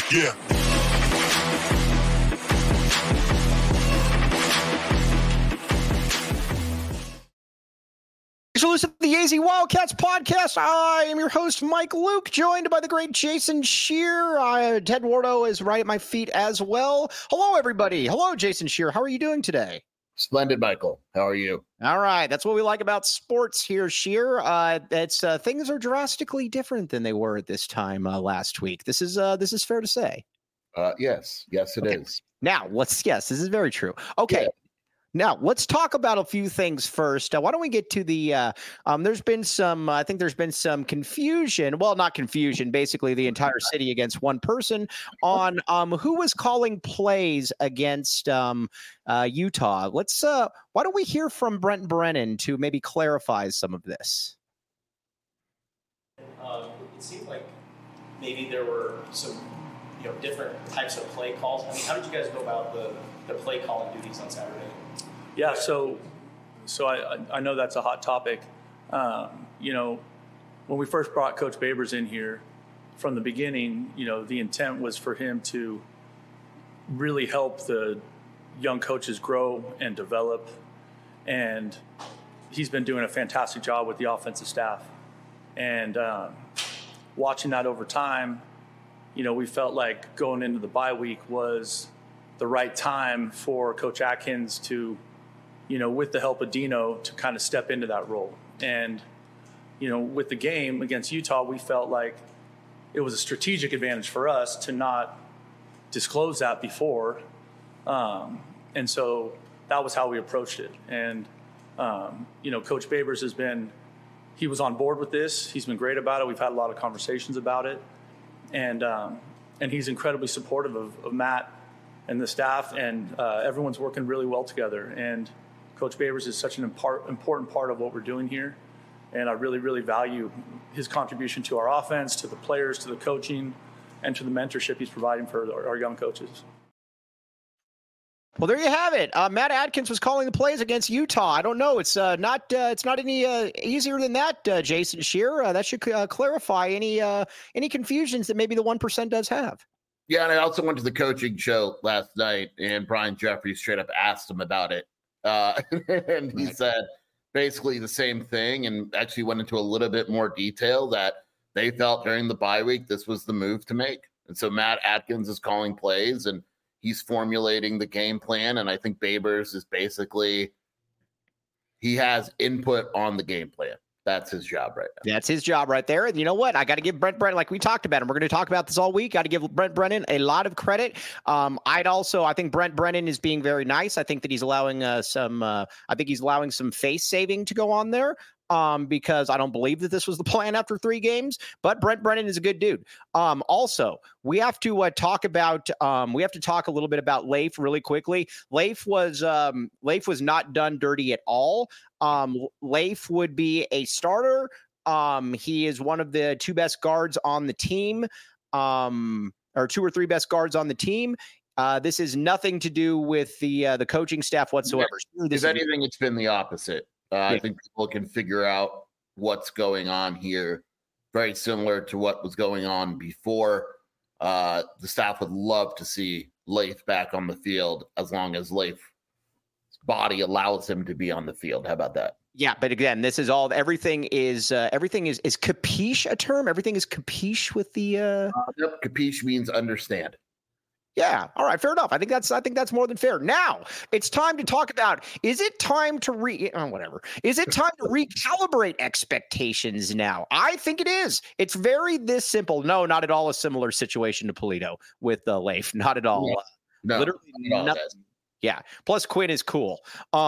Yeah. So listen to the AZ Wildcats podcast. I am your host, Mike Luke, joined by the great Jason Scheer. Ted Wardo is right at my feet as well. Hello, everybody. Hello, Jason Scheer. How are you doing today? Splendid, Michael. How are you? All right. That's what we like about sports here, Scheer. Things are drastically different than they were at this time last week. This is fair to say. Yes, it is. Now, this is very true. Okay. Yeah. Now, let's talk about a few things first. Why don't we get to the I think there's been some confusion. Well, not confusion, basically the entire city against one person on who was calling plays against Utah. Why don't we hear from Brent Brennan to maybe clarify some of this? It seemed like maybe there were some different types of play calls. I mean, how did you guys go about the play calling duties on Saturday? Yeah, so I know that's a hot topic. When we first brought Coach Babers in here, from the beginning, the intent was for him to really help the young coaches grow and develop. And he's been doing a fantastic job with the offensive staff. And watching that over time, we felt like going into the bye week was the right time for Coach Atkins to, with the help of Dino, to kind of step into that role. And, with the game against Utah, we felt like it was a strategic advantage for us to not disclose that before. And so that was how we approached it. And, Coach Babers he was on board with this. He's been great about it. We've had a lot of conversations about it. And he's incredibly supportive of Matt and the staff, and everyone's working really well together. And Coach Babers is such an important part of what we're doing here, and I really, really value his contribution to our offense, to the players, to the coaching, and to the mentorship he's providing for our young coaches. Well, there you have it. Matt Atkins was calling the plays against Utah. I don't know. It's not any easier than that, Jason Scheer. That should clarify any confusions that maybe the 1% does have. Yeah, and I also went to the coaching show last night, and Brian Jeffries straight up asked him about it. And he said basically the same thing, and actually went into a little bit more detail that they felt during the bye week this was the move to make. And so Matt Atkins is calling plays, and he's formulating the game plan. And I think Babers is basically, he has input on the game plan. That's his job right now. That's his job right there. And you know what? I got to give Brent Brennan, like we talked about him. We're going to talk about this all week. Got to give Brent Brennan a lot of credit. I think Brent Brennan is being very nice. I think that he's allowing some face saving to go on there. Because I don't believe that this was the plan after 3 games, but Brent Brennan is a good dude. Also, we have to talk a little bit about Leif really quickly. Leif was not done dirty at all. Leif would be a starter. He is one of the 2 best guards on the team, or 2 or 3 best guards on the team. This is nothing to do with the coaching staff whatsoever. If anything, it's been the opposite. I think people can figure out what's going on here. Very similar to what was going on before. The staff would love to see Leif back on the field as long as Leif's body allows him to be on the field. How about that? Yeah, but again, this is all. Everything is capiche a term? Everything is capiche with the. Yep, capiche means understand. Yeah. All right. Fair enough. I think that's more than fair. Now it's time to talk about, is it time to recalibrate expectations now? I think it is. It's very this simple. No, not at all a similar situation to Polito with Leif. Not at all. No, literally nothing. Yeah. Plus Quinn is cool.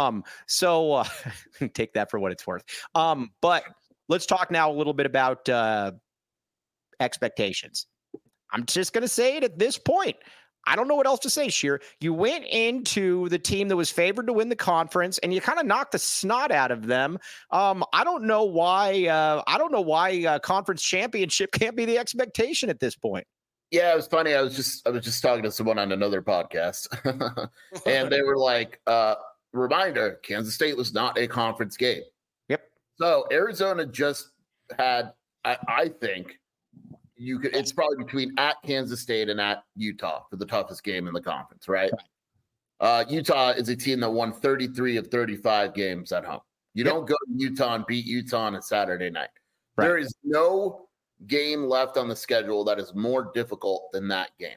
So take that for what it's worth. But let's talk now a little bit about expectations. I'm just going to say it at this point. I don't know what else to say, Scheer. You went into the team that was favored to win the conference, and you kind of knocked the snot out of them. I don't know why conference championship can't be the expectation at this point. Yeah, it was funny. I was just talking to someone on another podcast, and they were like, "Reminder: Kansas State was not a conference game." Yep. So Arizona just had, I think, It's probably between at Kansas State and at Utah for the toughest game in the conference, right? Utah is a team that won 33 of 35 games at home. You don't go to Utah and beat Utah on a Saturday night. Right. There is no game left on the schedule that is more difficult than that game.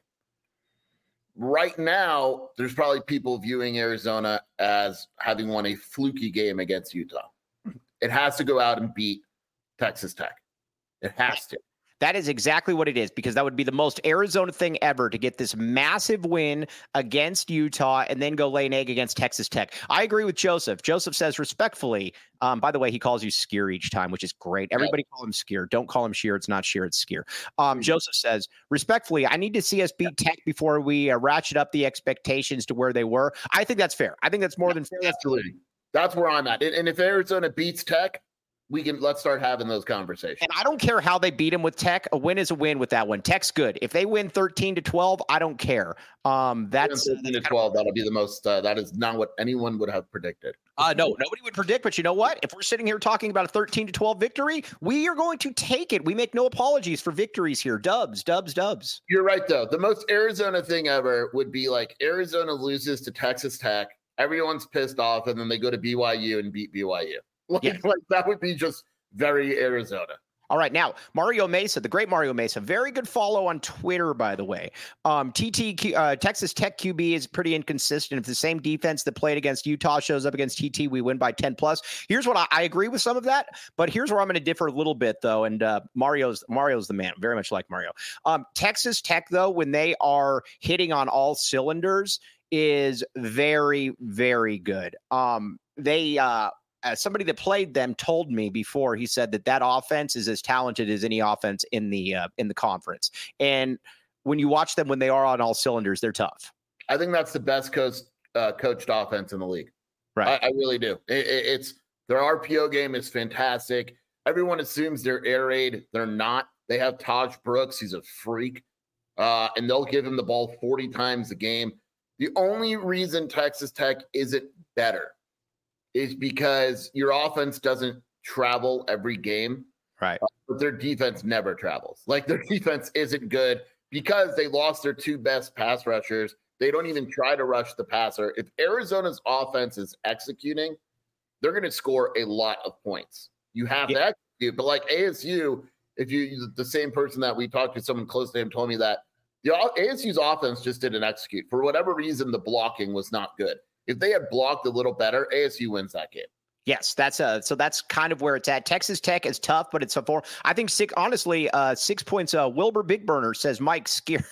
Right now, there's probably people viewing Arizona as having won a fluky game against Utah. It has to go out and beat Texas Tech. It has to. That is exactly what it is, because that would be the most Arizona thing ever to get this massive win against Utah and then go lay an egg against Texas Tech. I agree with Joseph. Joseph says respectfully, by the way, he calls you Skier each time, which is great. Everybody call him Skier. Don't call him Sheer. It's not Sheer, it's Skier. Joseph says, respectfully, I need to see us beat Tech before we ratchet up the expectations to where they were. I think that's fair. I think that's more than fair. Absolutely. That's where I'm at. And if Arizona beats Tech, let's start having those conversations. And I don't care how they beat him with Tech. A win is a win with that one. Tech's good. If they win 13-12, I don't care. That's 13-12. That'll be the most. That is not what anyone would have predicted. No, nobody would predict. But you know what? If we're sitting here talking about a 13-12 victory, we are going to take it. We make no apologies for victories here. Dubs. You're right, though. The most Arizona thing ever would be like Arizona loses to Texas Tech. Everyone's pissed off, and then they go to BYU and beat BYU. Like that would be just very Arizona. All right. Now, Mario Mesa, the great Mario Mesa, very good follow on Twitter, by the way. Texas Tech QB is pretty inconsistent. If the same defense that played against Utah shows up against TT, we win by 10 plus. Here's what I agree with some of that, but here's where I'm going to differ a little bit, though. And Mario's the man. Very much like Mario. Texas Tech, though, when they are hitting on all cylinders, is very, very good. Somebody that played them told me before, he said that offense is as talented as any offense in the conference. And when you watch them when they are on all cylinders, they're tough. I think that's the best coached offense in the league. Right. I really do. It's their RPO game is fantastic. Everyone assumes they're air raid. They're not. They have Taj Brooks. He's a freak. And they'll give him the ball 40 times a game. The only reason Texas Tech isn't better is because your offense doesn't travel every game. Right. But their defense never travels. Like, their defense isn't good because they lost their two best pass rushers. They don't even try to rush the passer. If Arizona's offense is executing, they're going to score a lot of points. You have to execute. But like ASU, the same person that we talked to, someone close to him, told me that the ASU's offense just didn't execute. For whatever reason, the blocking was not good. If they had blocked a little better, ASU wins that game. Yes, that's kind of where it's at. Texas Tech is tough, but it's a 4. I think 6 points. Wilbur Big Burner says Mike Skier.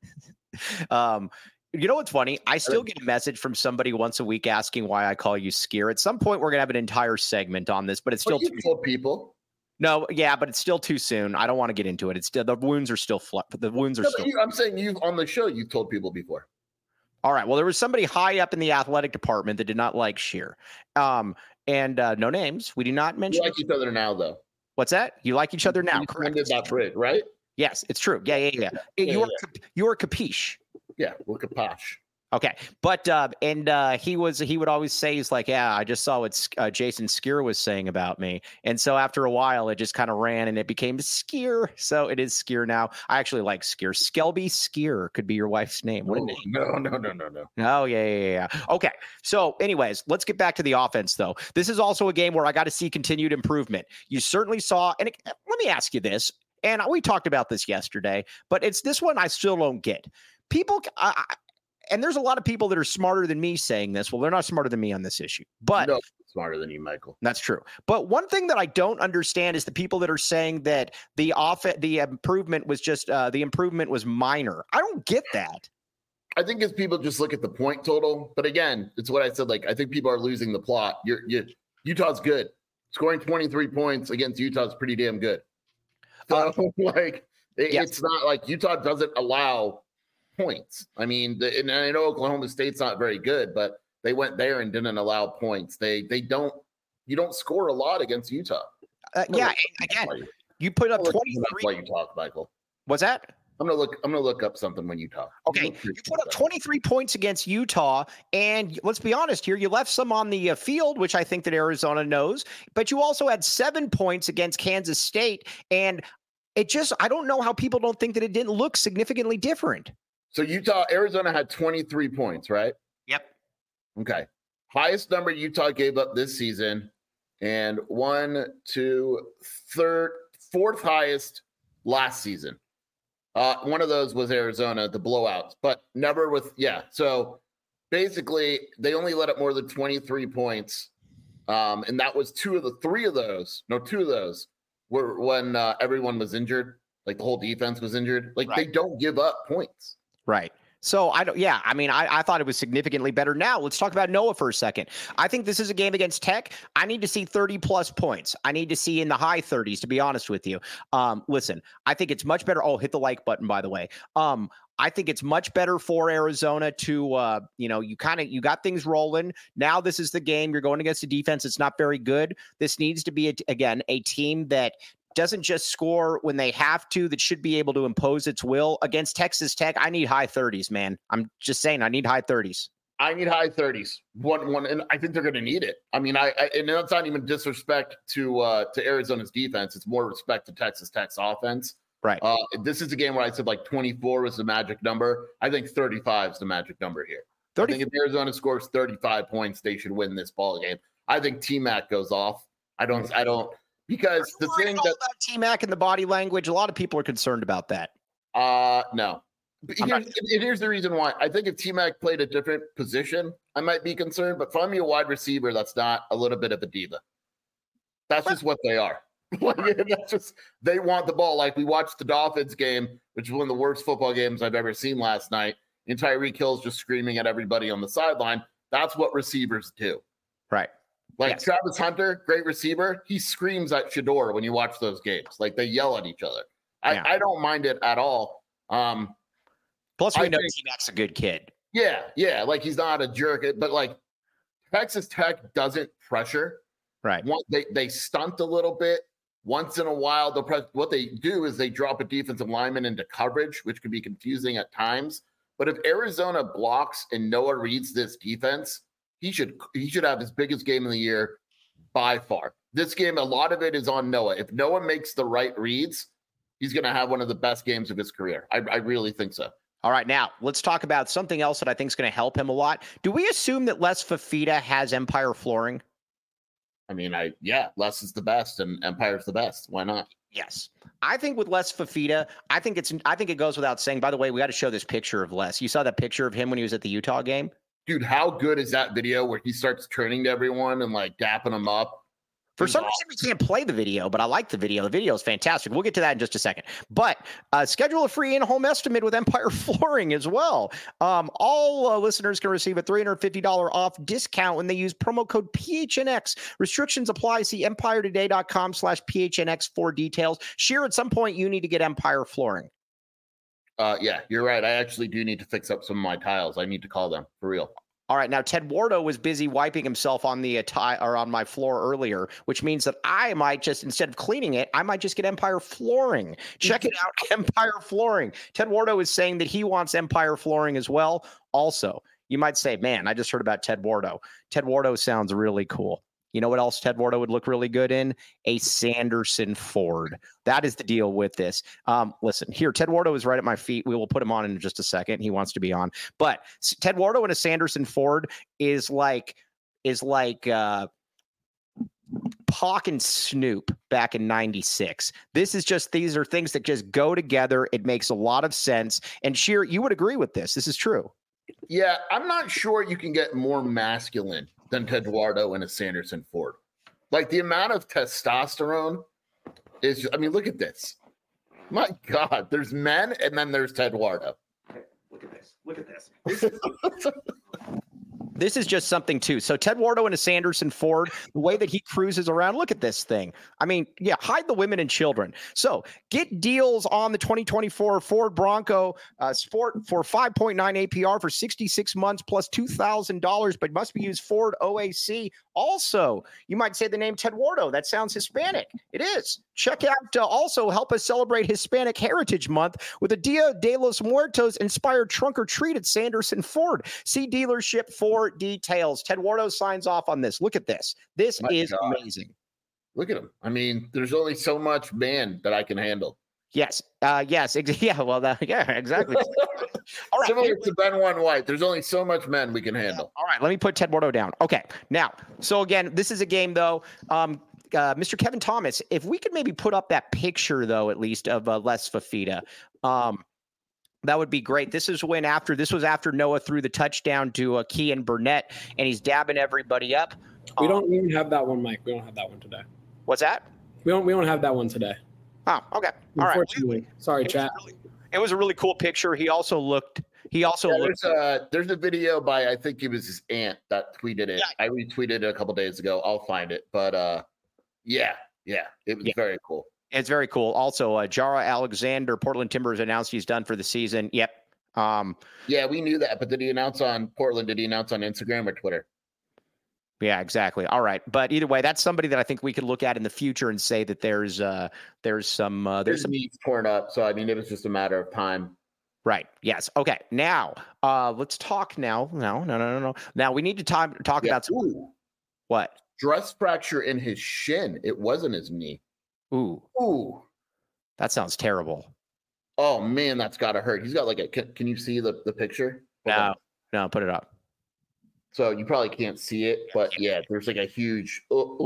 You know what's funny? I still get a message from somebody once a week asking why I call you Skier. At some point, we're gonna have an entire segment on this, but it's still too people. No, yeah, but it's still too soon. I don't want to get into it. It's still, the wounds are still I'm saying you on the show. You've told people before. All right. Well, there was somebody high up in the athletic department that did not like Sheer. And no names. We do not mention. You like each other now, though. What's that? You like each other now. Correct. That bridge, right? Yes, it's true. Yeah. You are capiche. Yeah, we're capache. Okay. But he would always say, he's like, yeah, I just saw what Jason Skier was saying about me. And so after a while, it just kind of ran and it became Skier. So it is Skier now. I actually like Skier. Skelby Skier could be your wife's name. Wouldn't it? No. Oh, yeah. Okay. So anyways, let's get back to the offense, though. This is also a game where I got to see continued improvement. You certainly saw, and let me ask you this, and we talked about this yesterday, but it's this one I still don't get. People, and there's a lot of people that are smarter than me saying this. Well, they're not smarter than me on this issue, but no, smarter than you, Michael. That's true. But one thing that I don't understand is the people that are saying that the improvement was minor. I don't get that. I think it's people just look at the point total. But again, it's what I said. Like, I think people are losing the plot. Utah's good. Scoring 23 points against Utah is pretty damn good. So, it's not like Utah doesn't allow points. I mean, and I know Oklahoma State's not very good, but they went there and didn't allow points. You don't score a lot against Utah. And again, you put up 23. That's why you talk, Michael. What's that? I'm gonna look up something when you talk. Okay, you put up 23 points against Utah, and let's be honest here, you left some on the field, which I think that Arizona knows, but you also had 7 points against Kansas State, and I don't know how people don't think that it didn't look significantly different. So Arizona had 23 points, right? Yep. Okay. Highest number Utah gave up this season, and fourth highest last season. One of those was Arizona, the blowouts, but never with, So basically, they only let up more than 23 points. And that was two of those were when everyone was injured, like the whole defense was injured. Like They don't give up points. Right. So I thought it was significantly better. Now let's talk about Noah for a second. I think this is a game against Tech. I need to see 30 plus points. I need to see in the high 30s, to be honest with you. Listen, I think it's much better. Oh, hit the like button, by the way. I think it's much better for Arizona to, you got things rolling. Now this is the game. You're going against a defense that's not very good. This needs to be, a team that doesn't just score when they have to, that should be able to impose its will. Against Texas Tech, I need high 30s, man. I'm just saying, I need high 30s. I need high 30s. One, and I think they're going to need it. I mean, and that's not even disrespect to Arizona's defense. It's more respect to Texas Tech's offense. Right. This is a game where I said like 24 was the magic number. I think 35 is the magic number here. I think if Arizona scores 35 points, they should win this ball game. I think T-Mac goes off. I don't, because the thing that about T-Mac and the body language, a lot of people are concerned about that. No. Here's the reason why. I think if T-Mac played a different position, I might be concerned. But find me a wide receiver that's not a little bit of a diva. That's just what they are. That's just, they want the ball. Like we watched the Dolphins game, which is one of the worst football games I've ever seen last night. And Tyreek Hill's just screaming at everybody on the sideline. That's what receivers do. Right. Like Travis Hunter, great receiver. He screams at Shedeur when you watch those games. Like they yell at each other. I don't mind it at all. Plus, we know T-Mac's a good kid. Yeah. Like he's not a jerk. But like Texas Tech doesn't pressure. Right. They stunt a little bit. Once in a while, what they do is they drop a defensive lineman into coverage, which can be confusing at times. But if Arizona blocks and Noah reads this defense, he should have his biggest game of the year by far. This game, a lot of it is on Noah. If Noah makes the right reads, he's going to have one of the best games of his career. I really think so. All right, now let's talk about something else that I think is going to help him a lot. Do we assume that Les Fifita has Empire flooring? I mean, Les is the best and Empire's the best. Why not? Yes. I think with Les Fifita, I think it goes without saying. By the way, we got to show this picture of Les. You saw that picture of him when he was at the Utah game? Dude, how good is that video where he starts turning to everyone and like dapping them up? For some reason, we can't play the video, but I like the video. The video is fantastic. We'll get to that in just a second. But schedule a free in-home estimate with Empire Flooring as well. All listeners can receive a $350 off discount when they use promo code PHNX. Restrictions apply. See EmpireToday.com/PHNX for details. Sheer, at some point, you need to get Empire Flooring. Yeah, you're right. I actually do need to fix up some of my tiles. I need to call them for real. All right. Now, Ted Wardo was busy wiping himself on the on my floor earlier, which means that I might just, instead of cleaning it, I might just get Empire Flooring. Check it out, Empire Flooring. Ted Wardo is saying that he wants Empire Flooring as well. Also, you might say, man, I just heard about Ted Wardo. Ted Wardo sounds really cool. You know what else Ted Wardo would look really good in? A Sanderson Ford. That is the deal with this. Listen, here, Ted Wardo is right at my feet. We will put him on in just a second. He wants to be on. But Ted Wardo in a Sanderson Ford is like Pac and Snoop back in 96. These are things that just go together. It makes a lot of sense. And Sheer, you would agree with this. This is true. Yeah, I'm not sure you can get more masculine than Ted Wardo in a Sanderson Ford. Like the amount of testosterone is, look at this. My God, there's men and then there's Ted Wardo. Okay, look at this. Look at this. This is just something too. So Ted Wardo in a Sanderson Ford, the way that he cruises around, look at this thing. Hide the women and children. So get deals on the 2024 Ford Bronco Sport for 5.9 APR for 66 months plus $2,000, but must be used Ford OAC. Also, you might say the name Ted Wardo. That sounds Hispanic. It is. Check out, also help us celebrate Hispanic Heritage Month with a Dia de los Muertos inspired trunk or treat at Sanderson Ford. See dealership for details. Ted Wardo signs off on this. Look at this. This is amazing. Look at him. There's only so much man that I can handle. Yes. Yes. Yeah. Well, yeah, exactly. All right. Similar to Ben One White, there's only so much men we can handle. All right. Let me put Ted Bordeaux down. Okay. Now, so again, this is a game though. Mr. Kevin Thomas, if we could maybe put up that picture though, at least of Les Fifita, that would be great. This was after Noah threw the touchdown to Kean Burnett, and he's dabbing everybody up. We don't even have that one, Mike. We don't have that one today. What's that? We don't have that one today. Oh, okay. All right. Unfortunately. Sorry, chat. It was a really cool picture. He also looked. There's a video by, I think it was his aunt that tweeted it. Yeah. I retweeted it a couple days ago. I'll find it. But it was very cool. It's very cool. Also, Jara Alexander, Portland Timbers announced he's done for the season. Yep. Yeah, we knew that. But did he announce on Portland? Did he announce on Instagram or Twitter? Yeah, exactly. All right. But either way, that's somebody that I think we could look at in the future and say that there's some knees torn up. So, I mean, it was just a matter of time. Right. Yes. Okay. Now, let's talk now. No. Now we need to talk about what? Stress fracture in his shin. It wasn't his knee. Ooh. That sounds terrible. Oh man, that's gotta hurt. He's got like can you see the picture? No, put it up. So you probably can't see it, but yeah, there's like a huge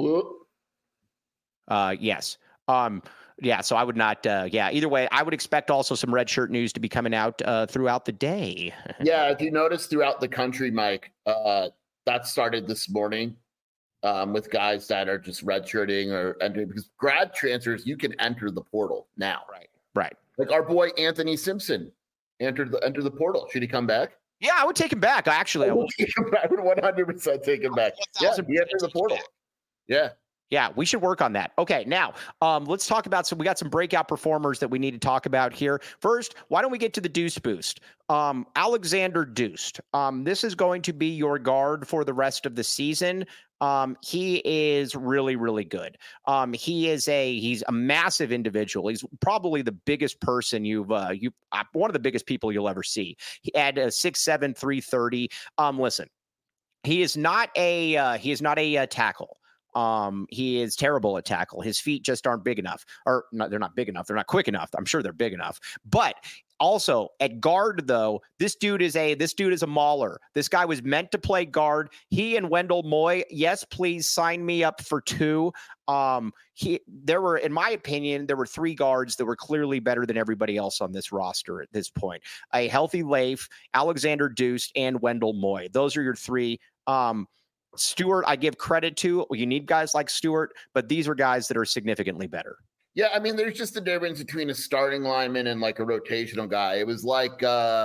yes. Yeah, so I would not either way, I would expect also some red shirt news to be coming out throughout the day. Yeah, if you notice throughout the country, Mike, that started this morning with guys that are just redshirting or entering, because grad transfers, you can enter the portal now. Right. Like our boy Anthony Simpson entered the portal. Should he come back? Yeah, I would take him back. Actually, I would 100% take him back. Yeah, he entered the portal. Yeah, we should work on that. Okay, now let's talk about we got some breakout performers that we need to talk about here. First, why don't we get to the Deuce Boost? Alexander Deuce. This is going to be your guard for the rest of the season. He is really, really good. He's a massive individual. He's probably the biggest person one of the biggest people you'll ever see. He had a 6'7", 330. Listen, he is not a tackle. He is terrible at tackle. His feet just aren't big enough, or no, they're not big enough. They're not quick enough. I'm sure they're big enough, but also at guard though, this dude is a mauler. This guy was meant to play guard. He and Wendell Moy. Yes, please sign me up for 2. In my opinion, there were 3 guards that were clearly better than everybody else on this roster at this point. A healthy Leif, Alexander Deuce, and Wendell Moy. Those are your 3. Stewart, I give credit to. You need guys like Stewart, but these are guys that are significantly better. Yeah, I mean, there's just a difference between a starting lineman and like a rotational guy. It was like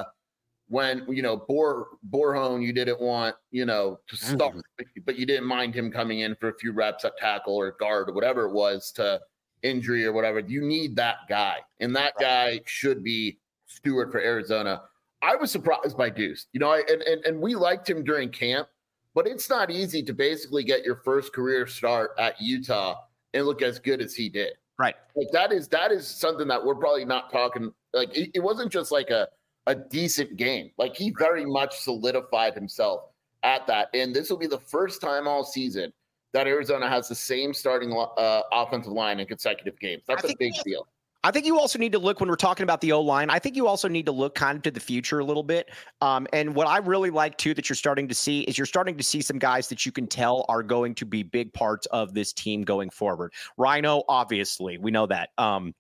when, Borhone, you didn't want, to start, but you didn't mind him coming in for a few reps at tackle or guard or whatever it was to injury or whatever. You need that guy, and that guy should be Stewart for Arizona. I was surprised by Deuce, and we liked him during camp. But it's not easy to basically get your first career start at Utah and look as good as he did. Right. Like that is something that we're probably not talking. Like it wasn't just like a decent game. Like he very much solidified himself at that. And this will be the first time all season that Arizona has the same starting offensive line in consecutive games. That's a big deal. I think you also need to look, when we're talking about the O-line, I think you also need to look kind of to the future a little bit. And what I really like, too, that you're starting to see some guys that you can tell are going to be big parts of this team going forward. Rhino, obviously, we know that.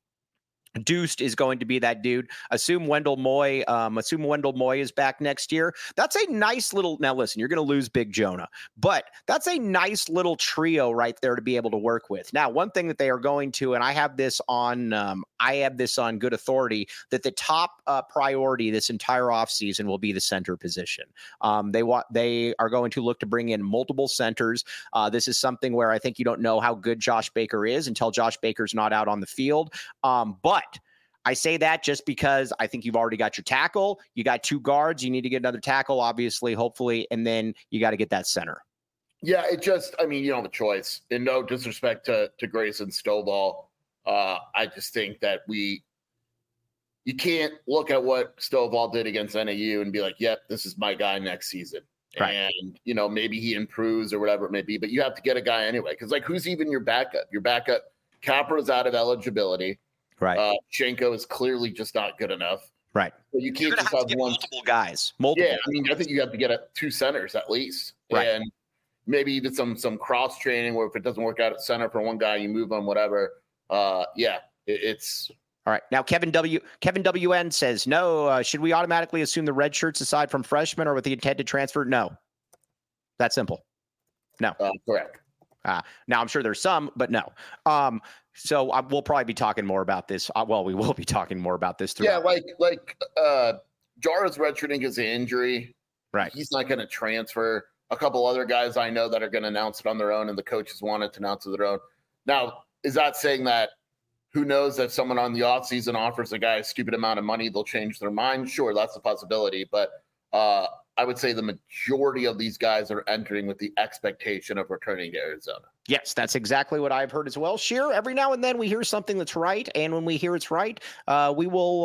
Deuced is going to be that dude. Assume Wendell Moy is back next year. That's a nice little. Now listen, you're going to lose Big Jonah, but that's a nice little trio right there to be able to work with. Now, one thing that they are going to, and I have this on good authority, that the top priority this entire offseason will be the center position. They are going to look to bring in multiple centers. This is something where I think you don't know how good Josh Baker is until Josh Baker's not out on the field. But I say that just because I think you've already got your tackle. You got 2 guards. You need to get another tackle, obviously, hopefully, and then you got to get that center. Yeah, you don't have a choice. And no disrespect to Grayson Stovall. I just think that you can't look at what Stovall did against NAU and be like, yep, this is my guy next season. Right. And, maybe he improves or whatever it may be, but you have to get a guy anyway. Because, who's even your backup? Your backup, Capra's out of eligibility. Right. Shenko is clearly just not good enough. Right. So you can't just have one. Multiple guys. Multiple. Yeah, I mean, I think you have to get 2 centers at least. Right. And maybe even some cross training where if it doesn't work out at center for one guy, you move on, whatever. It's all right. Now, Kevin WN says, no, should we automatically assume the red shirts aside from freshmen or with the intent to transfer? No. That's simple. No. Correct. Now, I'm sure there's some, but no. So we'll probably be talking more about this. We will be talking more about this. Yeah, like Jara's redshirting his injury. Right. He's not going to transfer. A couple other guys I know that are going to announce it on their own, and the coaches wanted to announce it on their own. Now, is that saying that who knows if someone on the offseason offers a guy a stupid amount of money, they'll change their mind? Sure, that's a possibility. But I would say the majority of these guys are entering with the expectation of returning to Arizona. Yes, that's exactly what I've heard as well. Sheer, every now and then we hear something that's right, and when we hear it's right, we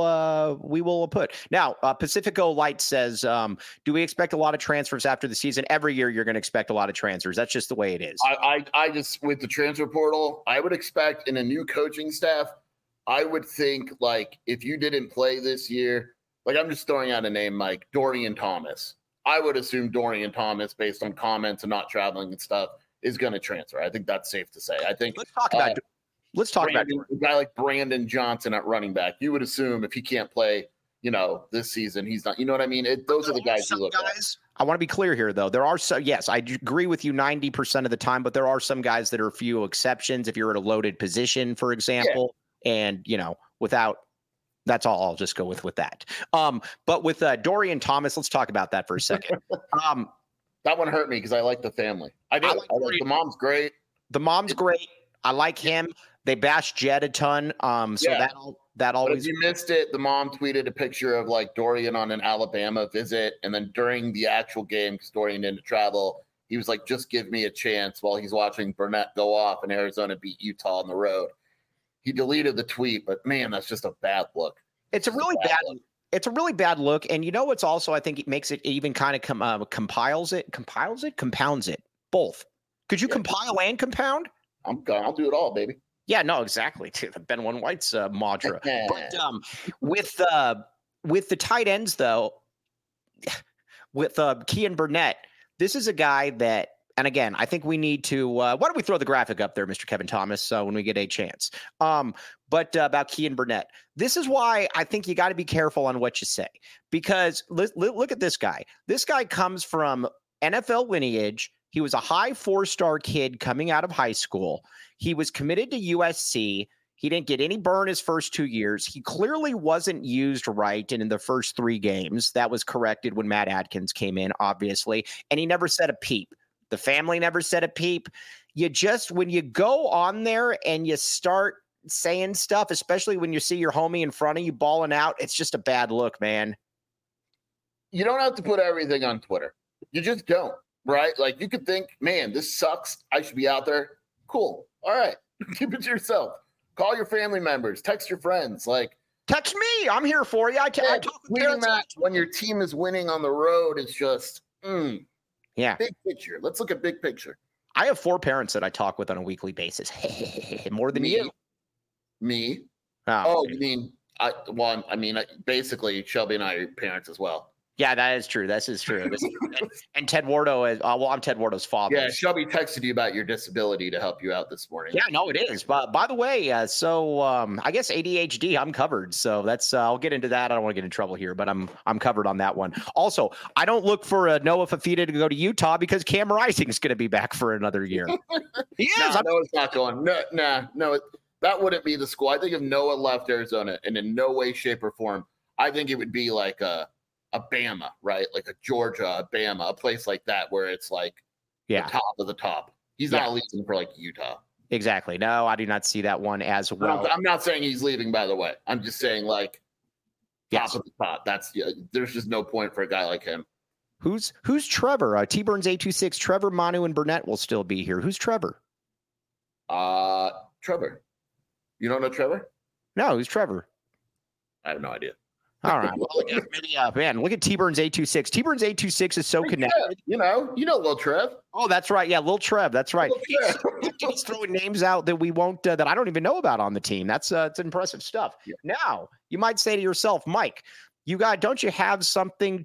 will put. Now, Pacifico Light says, do we expect a lot of transfers after the season? Every year you're going to expect a lot of transfers. That's just the way it is. I just, with the transfer portal, I would expect in a new coaching staff, I would think, like, if you didn't play this year, like, I'm just throwing out a name like Dorian Thomas. I would assume Dorian Thomas, based on comments and not traveling and stuff, is going to transfer. I think that's safe to say. I think let's talk about a guy like Brandon Johnson at running back. You would assume if he can't play, this season, he's not. You know what I mean? Those are the guys you look at. I want to be clear here, though. There are yes, I agree with you 90% of the time, but there are some guys that are a few exceptions. If you're at a loaded position, for example, and without. That's all. I'll just go with that. But with Dorian Thomas, let's talk about that for a second. That one hurt me because I like the family. I do. The mom's great. The mom's great. I like him. They bash Jed a ton. That always. But if you missed it, the mom tweeted a picture of like Dorian on an Alabama visit, and then during the actual game, because Dorian didn't travel, he was like, "Just give me a chance," while he's watching Burnett go off and Arizona beat Utah on the road. He deleted the tweet, but man, that's just a bad look. It's a really bad look. And what's also, I think it makes it even kind of compounds it, both. Could you compile and compound? I'll do it all, baby. Yeah, no, exactly. The Ben One White's mantra. But with the tight ends, though, with Kean Burnett, this is a guy that, and again, I think we need to. Why don't we throw the graphic up there, Mr. Kevin Thomas, when we get a chance? But about Kean Burnett, this is why I think you got to be careful on what you say, because look at this guy. This guy comes from NFL lineage. He was a high 4-star kid coming out of high school. He was committed to USC. He didn't get any burn his first 2 years. He clearly wasn't used right in the first 3 games. That was corrected when Matt Adkins came in, obviously, and he never said a peep. The family never said a peep. When you go on there and you start saying stuff, especially when you see your homie in front of you balling out, it's just a bad look, man. You don't have to put everything on Twitter. You just don't, right? Like, you could think, man, this sucks. I should be out there. Cool. All right. Keep it to yourself. Call your family members. Text your friends. Like, text me. I'm here for you. I talk with parents. When your team is winning on the road, it's just, yeah. Big picture. Let's look at big picture. I have 4 parents that I talk with on a weekly basis. More than you. Me? Oh, you mean basically Shelby and I are parents as well. Yeah, that is true. This is true. And Ted Wardo is. I'm Ted Wardo's father. Yeah, Shelby texted you about your disability to help you out this morning. Yeah, no, it is. But by the way, I guess ADHD, I'm covered. So that's. I'll get into that. I don't want to get in trouble here, but I'm covered on that one. Also, I don't look for Noah Fafita to go to Utah because Cam Rising is going to be back for another year. He is. No, it's not going. No. That wouldn't be the school. I think if Noah left Arizona, and in no way, shape, or form, I think it would be like a Bama, right? Like a Georgia, a Bama, a place like that where it's like the top of the top. He's not leaving for like Utah. Exactly. No, I do not see that one as well. I'm not saying he's leaving, by the way. I'm just saying like top of the top. There's just no point for a guy like him. Who's Trevor? T-Burns 826. Trevor, Manu, and Burnett will still be here. Who's Trevor? Trevor. You don't know Trevor? No, who's Trevor? I have no idea. All right. Well, maybe, man, look at T-Burns 826. T-Burns 826 is so connected. You know, Lil Trev. Oh, that's right. Yeah, Lil Trev. That's right. Lil Trev. He's throwing names out that we won't, that I don't even know about on the team. That's it's impressive stuff. Yeah. Now, you might say to yourself, Mike, don't you have something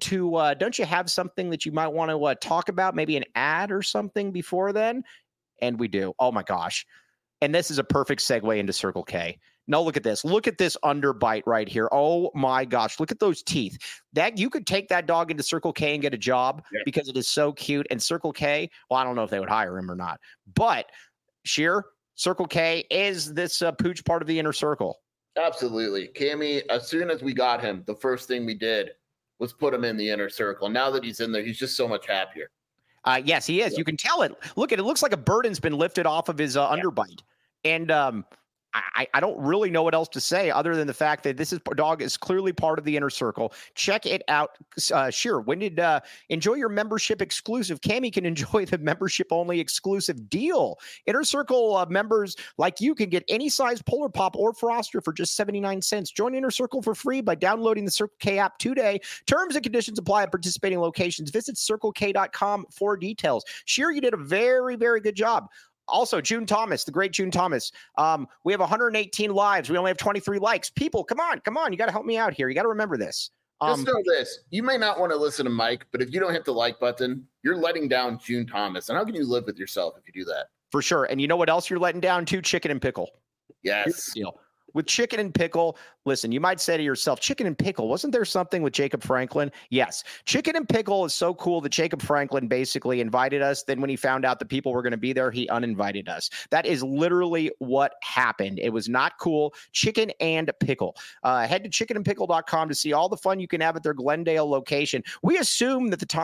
that you might want to talk about? Maybe an ad or something before then? And we do. Oh my gosh. And this is a perfect segue into Circle K. No, look at this. Look at this underbite right here. Oh my gosh. Look at those teeth. That you could take that dog into Circle K and get a job because it is so cute. And Circle K, well, I don't know if they would hire him or not. But Sheer, Circle K is this pooch part of the inner circle. Absolutely. Cammy, as soon as we got him, the first thing we did was put him in the inner circle. Now that he's in there, he's just so much happier. Yes, he is. Yeah. You can tell it. Look at it. It looks like a burden's been lifted off of his underbite. And I don't really know what else to say other than the fact that this dog is clearly part of the inner circle. Check it out. Sure. When did enjoy your membership exclusive? Cammy can enjoy the membership only exclusive deal. Inner Circle members like you can get any size Polar Pop or Froster for just 79 cents. Join Inner Circle for free by downloading the Circle K app today. Terms and conditions apply at participating locations. Visit CircleK.com for details. Sure, you did a very, very good job. Also, June Thomas, the great June Thomas. We have 118 lives. We only have 23 likes. People, come on. You got to help me out here. You got to remember this. Just know this. You may not want to listen to Mike, but if you don't hit the like button, you're letting down June Thomas. And how can you live with yourself if you do that? For sure. And you know what else you're letting down too? Chicken and pickle. Yes. With chicken and pickle, listen, you might say to yourself, chicken and pickle, wasn't there something with Jacob Franklin? Yes. Chicken and pickle is so cool that Jacob Franklin basically invited us. Then when he found out that people were going to be there, he uninvited us. That is literally what happened. It was not cool. Chicken and pickle. Head to chickenandpickle.com to see all the fun you can have at their Glendale location. We assume that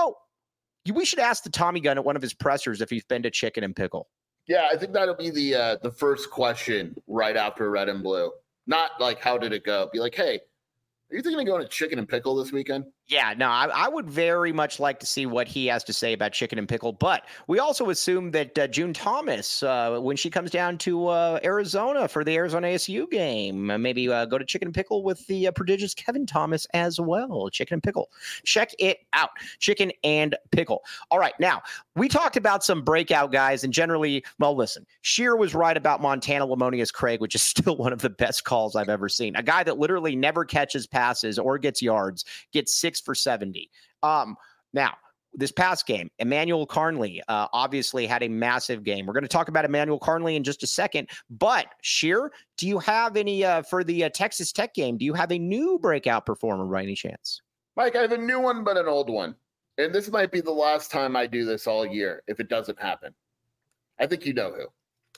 we should ask the Tommy Gun at one of his pressers if he's been to Chicken and Pickle. Yeah, I think that'll be the first question right after Red and Blue. Not like, how did it go? Be like, hey, are you thinking of going to Chicken and Pickle this weekend? Yeah, no, I would very much like to see what he has to say about Chicken and Pickle. But we also assume that June Thomas, when she comes down to Arizona for the Arizona ASU game, maybe go to Chicken and Pickle with the prodigious Kevin Thomas as well. Chicken and Pickle. Check it out. Chicken and Pickle. All right, now, we talked about some breakout guys, and generally, well, listen, Sheer was right about Montana Lamonius Craig, which is still one of the best calls I've ever seen. A guy that literally never catches passes or gets yards, gets 6 for 70. Now, this past game, Emmanuel Carnley obviously had a massive game. We're going to talk about Emmanuel Carnley in just a second. But, Sheer, do you have any, for the Texas Tech game, do you have a new breakout performer by any chance? Mike, I have a new one, but an old one. And this might be the last time I do this all year if it doesn't happen. I think you know who.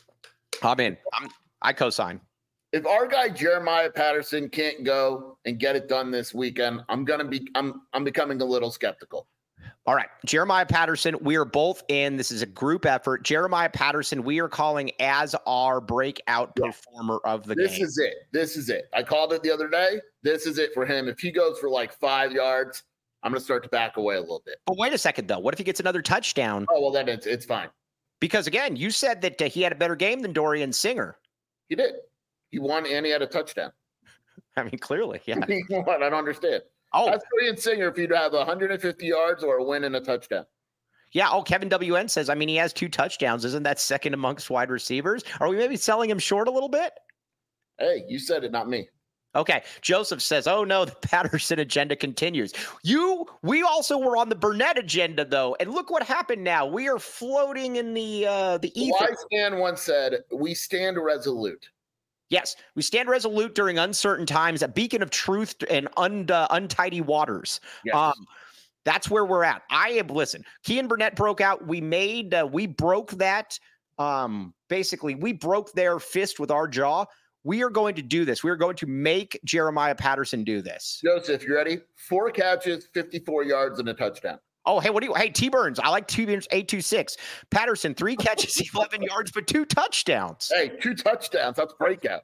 I'm in. I co-sign. If our guy Jeremiah Patterson can't go and get it done this weekend, I'm becoming a little skeptical. All right, Jeremiah Patterson, we are both in. This is a group effort. Jeremiah Patterson, we are calling as our breakout performer of the game. This is it. I called it the other day. This is it for him. If he goes for like 5 yards, I'm going to start to back away a little bit. But wait a second, though. What if he gets another touchdown? Oh, well, then it's fine. Because, again, you said that he had a better game than Dorian Singer. He did. He won and he had a touchdown. I mean, clearly, yeah. What? I don't understand. Oh, that's Dorian Singer if you'd have 150 yards or a win and a touchdown. Yeah. Oh, Kevin WN says, I mean, he has 2 touchdowns. Isn't that second amongst wide receivers? Are we maybe selling him short a little bit? Hey, you said it, not me. Okay. Joseph says, oh, no, the Patterson agenda continues. We also were on the Burnett agenda, though. And look what happened now. We are floating in the ether. Wise man once said, we stand resolute. Yes, we stand resolute during uncertain times, a beacon of truth and untidy waters. Yes. That's where we're at. Listen, Kean Burnett broke out. We broke that. Basically, we broke their fist with our jaw. We are going to do this. We are going to make Jeremiah Patterson do this. Joseph, you ready? 4 catches, 54 yards, and a touchdown. Oh, hey, T-Burns. I like T-Burns 826. Patterson, 3 catches, 11 yards, but 2 touchdowns. Hey, 2 touchdowns. That's breakout.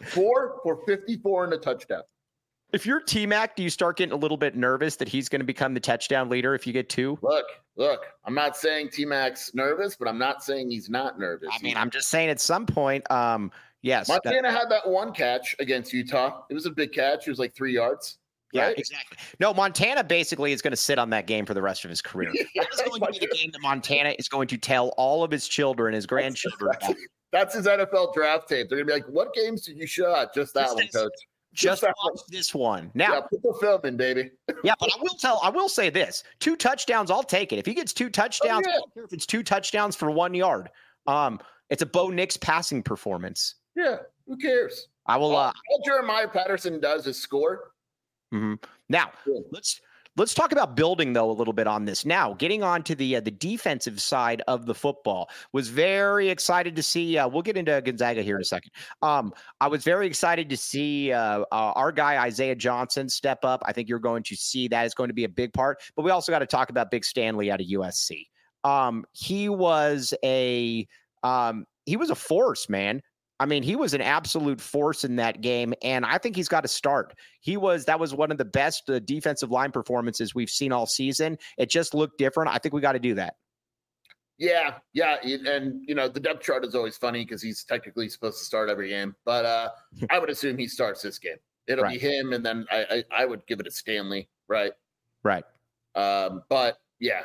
4 for 54 and a touchdown. If you're T-Mac, do you start getting a little bit nervous that he's going to become the touchdown leader if you get 2? Look, I'm not saying T-Mac's nervous, but I'm not saying he's not nervous. I mean, I'm just saying at some point, yes. Montana had that 1 catch against Utah. It was a big catch. It was like 3 yards. Yeah, right? exactly. No, Montana basically is going to sit on that game for the rest of his career. That is going to be the game that Montana is going to tell all of his children, his grandchildren about. That's his NFL draft tape. They're going to be like, what games did you shot? Just that one, coach. Just that watch this one. Now, yeah, put the film in, baby. yeah, but I will say this. 2 touchdowns, I'll take it. If he gets 2 touchdowns, I don't care if it's 2 touchdowns for 1 yard. It's a Bo Nix passing performance. Yeah, who cares? I will all Jeremiah Patterson does is score. Mm-hmm. Now, let's talk about building, though, a little bit on this. Now, getting on to the defensive side of the football, was very excited to see. We'll get into Gonzaga here in a second. I was very excited to see our guy Isaiah Johnson step up. I think you're going to see that is going to be a big part. But we also got to talk about Big Stanley out of USC. He was a force, man. I mean, he was an absolute force in that game, and I think he's got to start. That was one of the best defensive line performances we've seen all season. It just looked different. I think we got to do that. Yeah. And, the depth chart is always funny because he's technically supposed to start every game. But I would assume he starts this game. It'll be him, and then I would give it to Stanley, right? Right. But, yeah.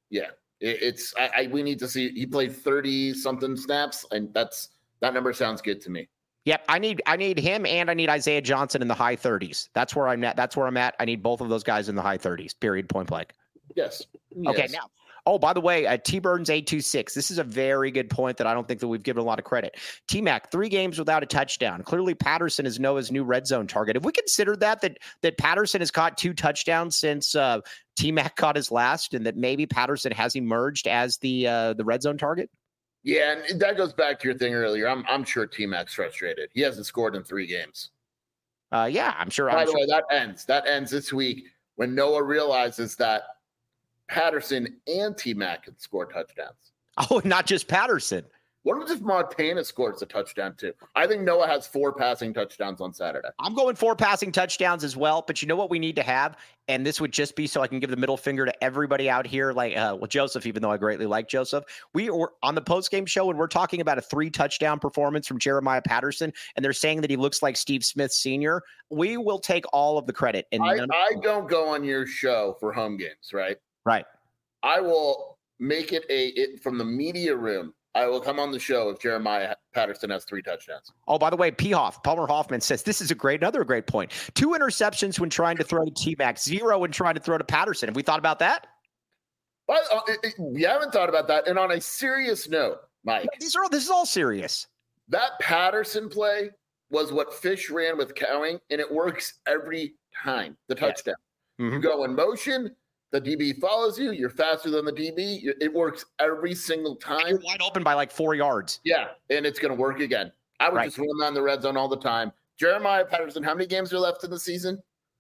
We need to see – he played 30-something snaps, and that number sounds good to me. Yep, I need him, and I need Isaiah Johnson in the high 30s. That's where I'm at. I need both of those guys in the high 30s. Period. Point blank. Yes. Okay. Now, by the way, T Burns 826. This is a very good point that I don't think that we've given a lot of credit. T-Mac 3 games without a touchdown. Clearly, Patterson is Noah's new red zone target. Have we considered that Patterson has caught 2 touchdowns since T-Mac caught his last, and that maybe Patterson has emerged as the red zone target? Yeah, and that goes back to your thing earlier. I'm sure T-Mac's frustrated. He hasn't scored in 3 games. Yeah, I'm sure. By the way, that ends this week when Noah realizes that Patterson and T-Mac can score touchdowns. Oh, not just Patterson. What if Montana scores a touchdown too? I think Noah has 4 passing touchdowns on Saturday. I'm going 4 passing touchdowns as well. But you know what we need to have? And this would just be so I can give the middle finger to everybody out here, like Joseph, even though I greatly like Joseph. We are on the postgame show, and we're talking about a 3-touchdown performance from Jeremiah Patterson, and they're saying that he looks like Steve Smith Sr. We will take all of the credit. And I don't go on your show for home games, right? Right. I will make it from the media room. I will come on the show if Jeremiah Patterson has 3 touchdowns. Oh, by the way, Palmer Hoffman says this is another great point. 2 interceptions when trying to throw to T-Mac, 0 when trying to throw to Patterson. Have we thought about that? Well, we haven't thought about that. And on a serious note, Mike, this is all serious. That Patterson play was what Fish ran with Cowing, and it works every time. The touchdown. Yes. Mm-hmm. You go in motion. The DB follows you. You're faster than the DB. It works every single time. You're wide open by like 4 yards. Yeah, and it's going to work again. I would just run on the red zone all the time. Jeremiah Patterson, how many games are left in the season?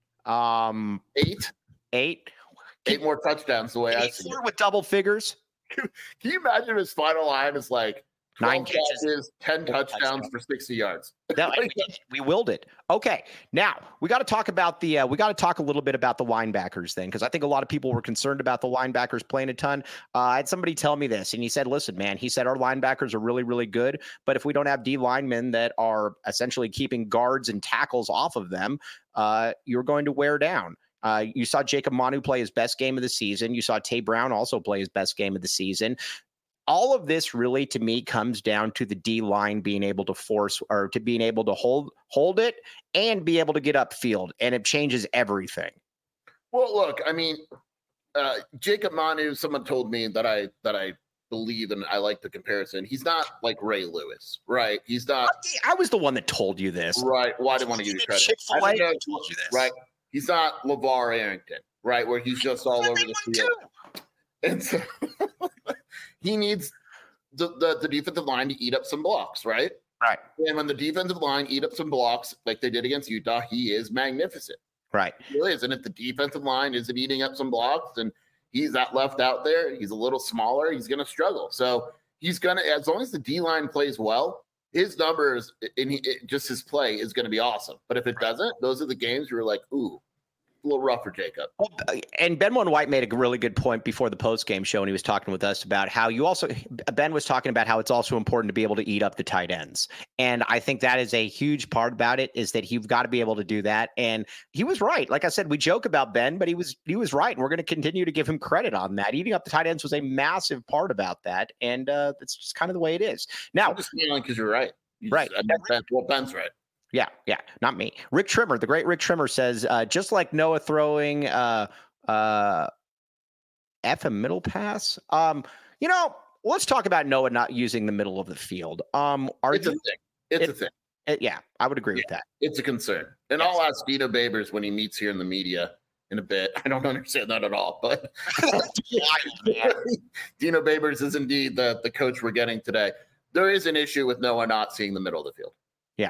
8. 8 more touchdowns the way I see it. With double figures. Can you imagine his final line is like 9 catches, 10 touchdowns for 60 yards? We willed it. Okay, now we got to talk about a little bit about the linebackers then, because I think a lot of people were concerned about the linebackers playing a ton. I had somebody tell me this, and he said, "Listen, man," he said, "our linebackers are really, really good, but if we don't have D linemen that are essentially keeping guards and tackles off of them, you're going to wear down." You saw Jacob Manu play his best game of the season. You saw Tay Brown also play his best game of the season. All of this really, to me, comes down to the D line being able to force or to being able to hold it and be able to get upfield, and it changes everything. Well, look, I mean, Jacob Manu. Someone told me that I believe, and I like the comparison. He's not like Ray Lewis, right? He's not. I was the one that told you this, right? Well, I didn't want to give you credit. Chick-fil-A told you this, right? He's not LeVar Arrington, right? Where he's just all over the field. And so he needs the defensive line to eat up some blocks, right? Right. And when the defensive line eat up some blocks like they did against Utah, he is magnificent. Right. He really is. And if the defensive line isn't eating up some blocks and he's that left out there, he's a little smaller, he's going to struggle. So he's going to, as long as the D-line plays well, his numbers and just his play is going to be awesome. But if it doesn't, those are the games where you're like, ooh, little rough for Jacob. And Benwin White made a really good point before the post-game show when he was talking with us about how Ben was talking about how it's also important to be able to eat up the tight ends. And I think that is a huge part about it, is that you've got to be able to do that. And he was right. Like I said, we joke about Ben, but he was right. And we're going to continue to give him credit on that. Eating up the tight ends was a massive part about that. And that's just kind of the way it is. Now, I'm just feeling because you're right. Right. Ben's right. Yeah, not me. Rick Trimmer, the great Rick Trimmer says, just like Noah throwing F a middle pass. Let's talk about Noah not using the middle of the field. It's a thing. It's a thing. Yeah, I would agree with that. It's a concern. And yes. I'll ask Dino Babers when he meets here in the media in a bit. I don't understand that at all, but Dino Babers is indeed the coach we're getting today. There is an issue with Noah not seeing the middle of the field. Yeah.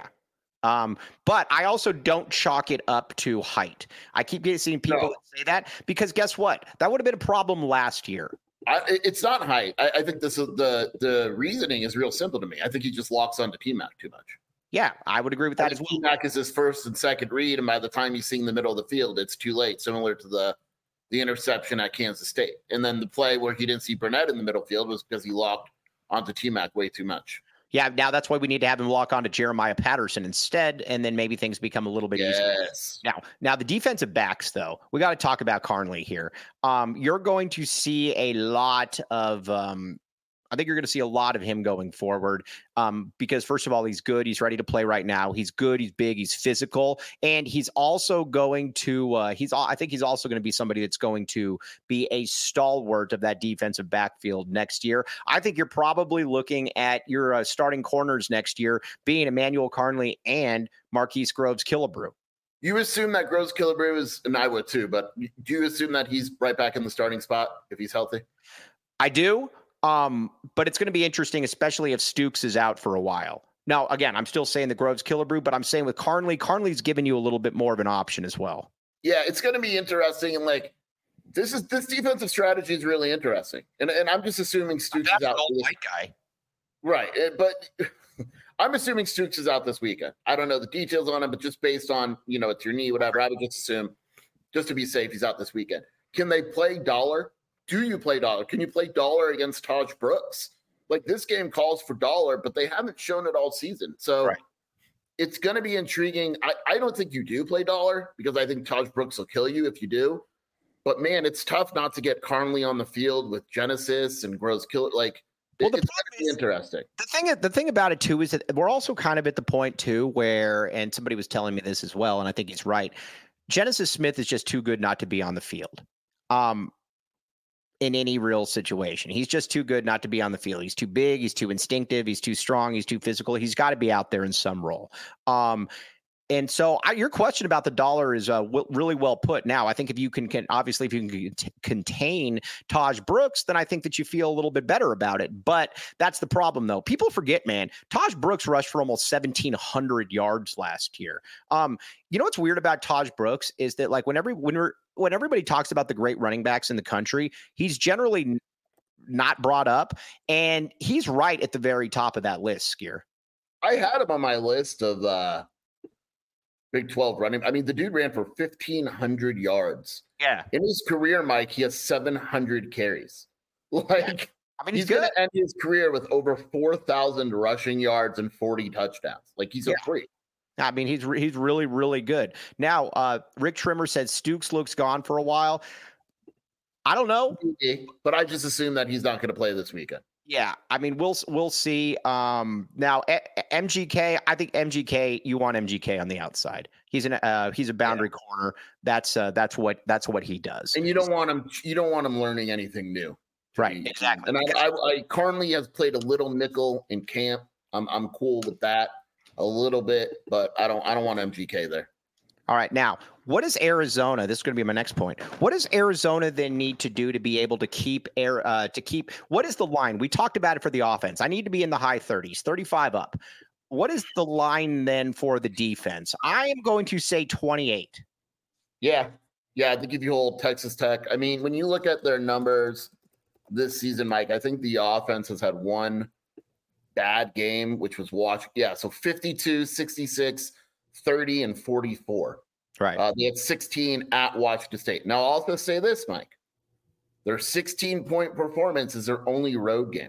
But I also don't chalk it up to height. I keep seeing people say that because guess what? That would have been a problem last year. It's not height. I think this is the reasoning is real simple to me. I think he just locks onto T-Mac too much. Yeah, I would agree with that as well. T-Mac is his first and second read, and by the time he's seeing the middle of the field, it's too late, similar to the interception at Kansas State. And then the play where he didn't see Burnett in the middle field was because he locked onto T-Mac way too much. Yeah, now that's why we need to have him lock on to Jeremiah Patterson instead, and then maybe things become a little bit easier. Now the defensive backs, though, we got to talk about Carnley here. You're going to see a lot of I think you're going to see a lot of him going forward because, first of all, he's good. He's ready to play right now. He's good. He's big. He's physical. And he's also going to I think he's also going to be somebody that's going to be a stalwart of that defensive backfield next year. I think you're probably looking at your starting corners next year being Emmanuel Carnley and Marquise Groves-Killebrew. You assume that Groves-Killebrew is, and I would too, but do you assume that he's right back in the starting spot if he's healthy? I do. But it's going to be interesting, especially if Stooks is out for a while. Now, again, I'm still saying the Groves-Killebrew, but I'm saying with Carnley's giving you a little bit more of an option as well. Yeah, it's going to be interesting. And like, this defensive strategy is really interesting. And I'm just assuming Stooks is out. White guy. Right. But I'm assuming Stooks is out this weekend. I don't know the details on it, but just based on, it's your knee, whatever, I would just assume, just to be safe, he's out this weekend. Can they play Dollar? Do you play Dollar? Can you play Dollar against Taj Brooks? Like, this game calls for Dollar, but they haven't shown it all season. So It's going to be intriguing. I don't think you do play Dollar because I think Taj Brooks will kill you if you do. But, man, it's tough not to get Carnley on the field with Genesis and Groves-Killebrew. Like, it's going to be interesting. The thing about it, too, is that we're also kind of at the point, too, where, and somebody was telling me this as well, and I think he's right, Genesis Smith is just too good not to be on the field. In any real situation. He's just too good not to be on the field. He's too big. He's too instinctive. He's too strong. He's too physical. He's got to be out there in some role. And so your question about the Dollar is really well put. Now, I think if you can obviously, if you can contain Taj Brooks, then I think that you feel a little bit better about it. But that's the problem, though. People forget, man, Taj Brooks rushed for almost 1,700 yards last year. What's weird about Taj Brooks is that, like, when everybody talks about the great running backs in the country, he's generally not brought up, and he's right at the very top of that list, Skier. I had him on my list of Big 12 running. I mean, the dude ran for 1,500 yards. Yeah. In his career, Mike, he has 700 carries. Like, he's going to end his career with over 4,000 rushing yards and 40 touchdowns. Like, he's a freak. I mean, he's really, really good. Now, Rick Trimmer said Stooks looks gone for a while. I don't know. But I just assume that he's not going to play this weekend. Yeah, I mean, we'll see. Now, MGK, I think MGK, you want MGK on the outside. He's a boundary corner. That's what he does. And you don't want him learning anything new. Right, exactly. And I Carnley has played a little nickel in camp. I'm cool with that a little bit, but I don't want MGK there. All right. Now, what does Arizona? This is going to be my next point. What does Arizona then need to do to be able to keep what is the line? We talked about it for the offense. I need to be in the high 30s, 35 up. What is the line then for the defense? I am going to say 28. Yeah. I think if you hold Texas Tech, I mean, when you look at their numbers this season, Mike, I think the offense has had one bad game, which was so 52, 66, 30, and 44. Right. They had 16 at Washington State. Now, I'll also say this, Mike. Their 16-point performance is their only road game.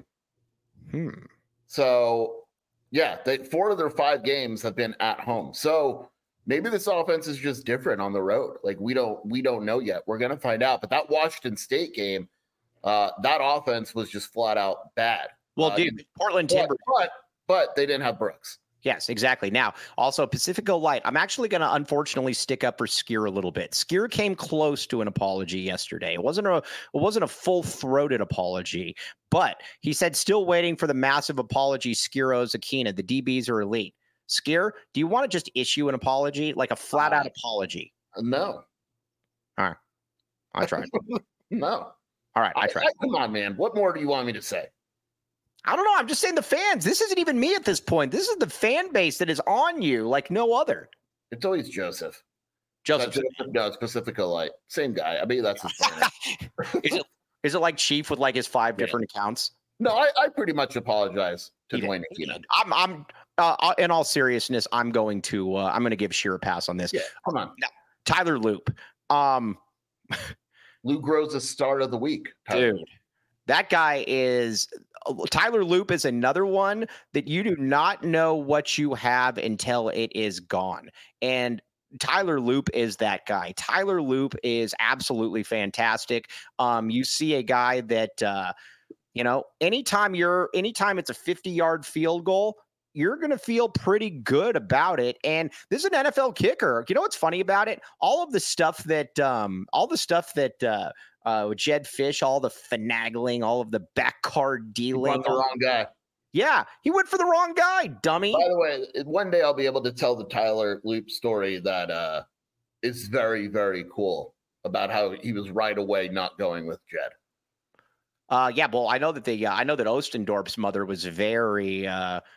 So, yeah, 4 of their 5 games have been at home. So maybe this offense is just different on the road. Like we don't know yet. We're gonna find out. But that Washington State game, that offense was just flat out bad. Well, dude, Portland Timbers. But they didn't have Brooks. Yes, exactly. Now, also Pacifico Light. I'm actually going to unfortunately stick up for Skier a little bit. Skier came close to an apology yesterday. It wasn't a full-throated apology, but he said still waiting for the massive apology. Skier owes Akina. The DBs are elite. Skier, do you want to just issue an apology, like a flat-out apology? No. All right, I tried. No. All right, I tried. Come on, man. What more do you want me to say? I don't know. I'm just saying the fans. This isn't even me at this point. This is the fan base that is on you like no other. It's always Joseph. Joseph. No, it's Pacifico Light. Same guy. I mean, that's his phone. Is it like Chief with like his 5 different accounts? No, I pretty much apologize to Dwayne Akina. I'm in all seriousness, I'm going to give Sheer a pass on this. Yeah, come on. Now, Tyler Loop. Lou Grows the start of the week. Dude, that guy is Tyler Loop is another one that you do not know what you have until it is gone. And Tyler Loop is that guy. Tyler Loop is absolutely fantastic. You see a guy that, anytime it's a 50-yard field goal, you're going to feel pretty good about it. And this is an NFL kicker. You know what's funny about it? All the stuff that Jed Fish, all the finagling, all of the back card dealing. The wrong guy. Yeah, he went for the wrong guy, dummy. By the way, one day I'll be able to tell the Tyler Loop story that is very, very cool about how he was right away not going with Jed. Yeah, well, I know that Ostendorf's mother was very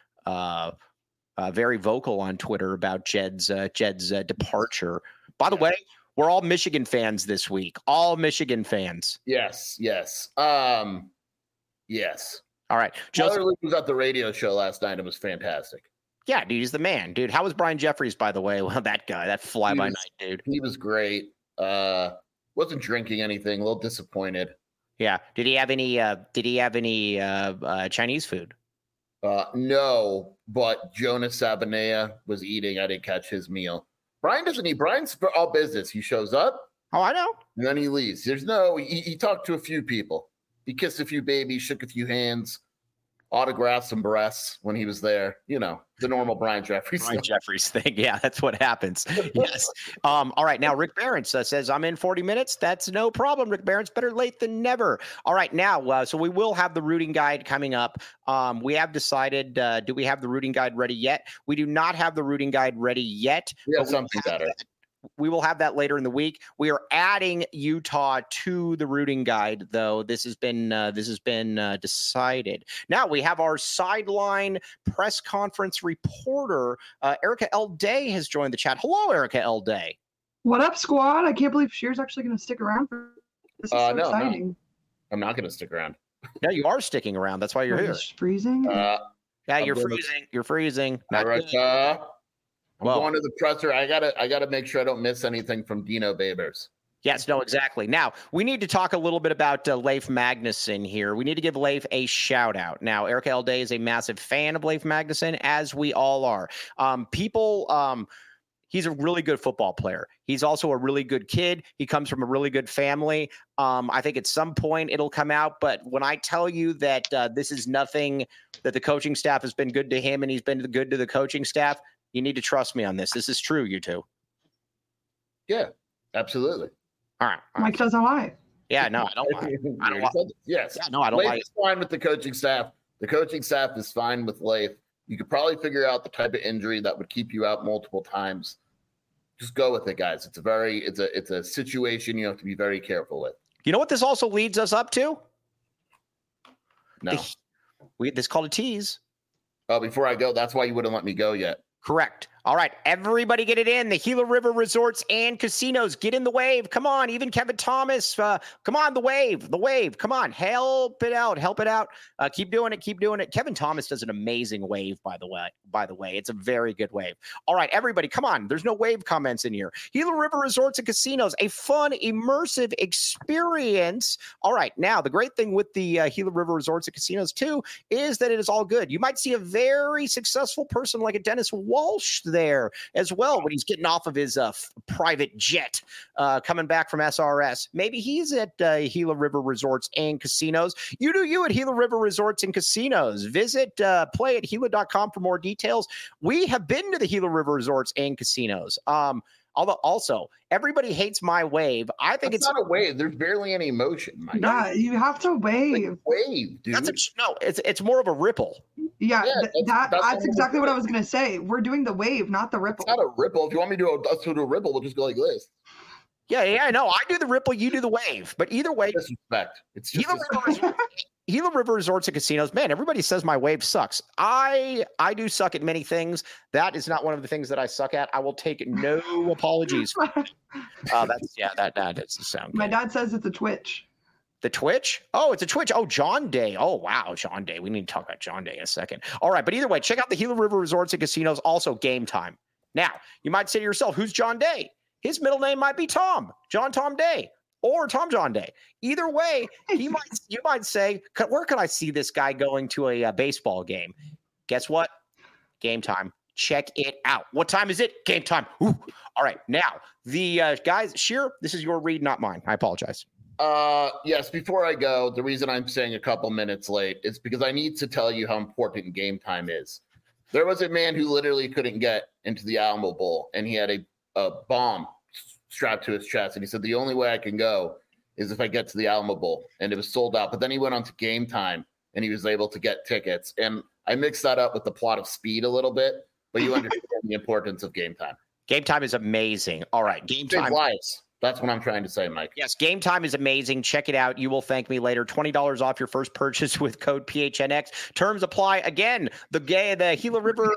vocal on Twitter about Jed's departure. By the way, we're all Michigan fans this week. All Michigan fans. Yes. Yes. All right. Tyler Loop was at the radio show last night. It was fantastic. Yeah, dude, he's the man, dude. How was Brian Jeffries, by the way? Well, that guy, that fly-by-night dude. He was great. Wasn't drinking anything. A little disappointed. Yeah. Did he have any Chinese food? No, but Jonas Sabanea was eating. I didn't catch his meal. Brian doesn't eat. Brian's for all business. He shows up. Oh, I know. And then he leaves. He talked to a few people. He kissed a few babies, shook a few hands, autographed some breasts when he was there. The normal Brian Jeffries thing. Yeah, that's what happens. Yes. All right. Now, Rick Barents says, I'm in 40 minutes. That's no problem, Rick Barents. Better late than never. All right. Now, so we will have the routing guide coming up. We have decided, do we have the routing guide ready yet? We do not have the routing guide ready yet. We have something better. We will have that later in the week. We are adding Utah to the routing guide, though. This has been decided. Now we have our sideline press conference reporter, Erica L. Day, has joined the chat. Hello, Erica L. Day. What up, squad? I can't believe Shear's actually going to stick around for this. Is so exciting. No. I'm not going to stick around. No, you are sticking around. That's why you're here. It's freezing. Yeah, you're freezing. You're freezing. All right. I'm going to the presser. I gotta make sure I don't miss anything from Dino Babers. Yes, no, exactly. Now, we need to talk a little bit about Leif Magnuson here. We need to give Leif a shout out. Now, Erica L. Day is a massive fan of Leif Magnuson, as we all are. He's a really good football player. He's also a really good kid. He comes from a really good family. I think at some point it'll come out. But when I tell you that this is nothing, that the coaching staff has been good to him and he's been good to the coaching staff, you need to trust me on this. This is true, you two. Yeah, absolutely. All right. Mike doesn't lie. Yeah, no, I don't lie. I don't lie. Yes. Yeah, no, I don't Leif lie. is fine with the coaching staff. The coaching staff is fine with Leif. You could probably figure out the type of injury that would keep you out multiple times. Just go with it, guys. It's a situation you have to be very careful with. You know what this also leads us up to? No. This is called a tease. Oh, before I go, that's why you wouldn't let me go yet. Correct. All right, everybody get it in. The Gila River Resorts and Casinos, get in the wave. Come on, even Kevin Thomas. Come on, the wave. Come on, help it out. Keep doing it. Kevin Thomas does an amazing wave, by the way. It's a very good wave. All right, everybody, come on. There's no wave comments in here. Gila River Resorts and Casinos, a fun, immersive experience. All right, now, the great thing with the Gila River Resorts and Casinos, too, is that it is all good. You might see a very successful person like a Dennis Walsh there as well when he's getting off of his private jet coming back from SRS. Maybe he's at Gila River Resorts and Casinos. You do you at Gila River Resorts and Casinos. Visit play at Gila.com for more details. We have been to the Gila River Resorts and Casinos. Although also everybody hates my wave. I think it's not a wave. There's barely any motion. Yeah, you have to wave. Wave, dude. It's more of a ripple. Yeah, that's exactly what I was gonna say. We're doing the wave, not the ripple. It's not a ripple. If you want me to do a ripple, we'll just go like this. Yeah, no, I do the ripple, you do the wave. But either way, disrespect. It's just Gila River Resorts and Casinos. Man, everybody says my wave sucks. I do suck at many things. That is not one of the things that I suck at. I will take no apologies. That doesn't sound good. My dad says it's a Twitch. The Twitch? Oh, it's a Twitch. Oh, John Day. Oh, wow, John Day. We need to talk about John Day in a second. All right, but either way, check out the Gila River Resorts and Casinos. Also, Game Time. Now, you might say to yourself, who's John Day? His middle name might be Tom, John Tom Day, or Tom John Day. Either way, you might say, where could I see this guy going to a baseball game? Guess what? Game Time. Check it out. What time is it? Game time. Ooh. All right. Now, the guys, Sheer, this is your read, not mine. I apologize. Yes, before I go, the reason I'm saying a couple minutes late is because I need to tell you how important Game Time is. There was a man who literally couldn't get into the Alamo Bowl, and he had a bomb strapped to his chest, and he said the only way I can go is if I get to the Alamo Bowl, and it was sold out. But then he went on to Game Time, and he was able to get tickets. And I mixed that up with the plot of Speed a little bit, but you understand the importance of Game Time. Game Time is amazing. All right, Game Time. Lives. That's what I'm trying to say, Mike. Yes, Game Time is amazing. Check it out. You will thank me later. $20 off your first purchase with code PHNX. Terms apply. Again, the Gila River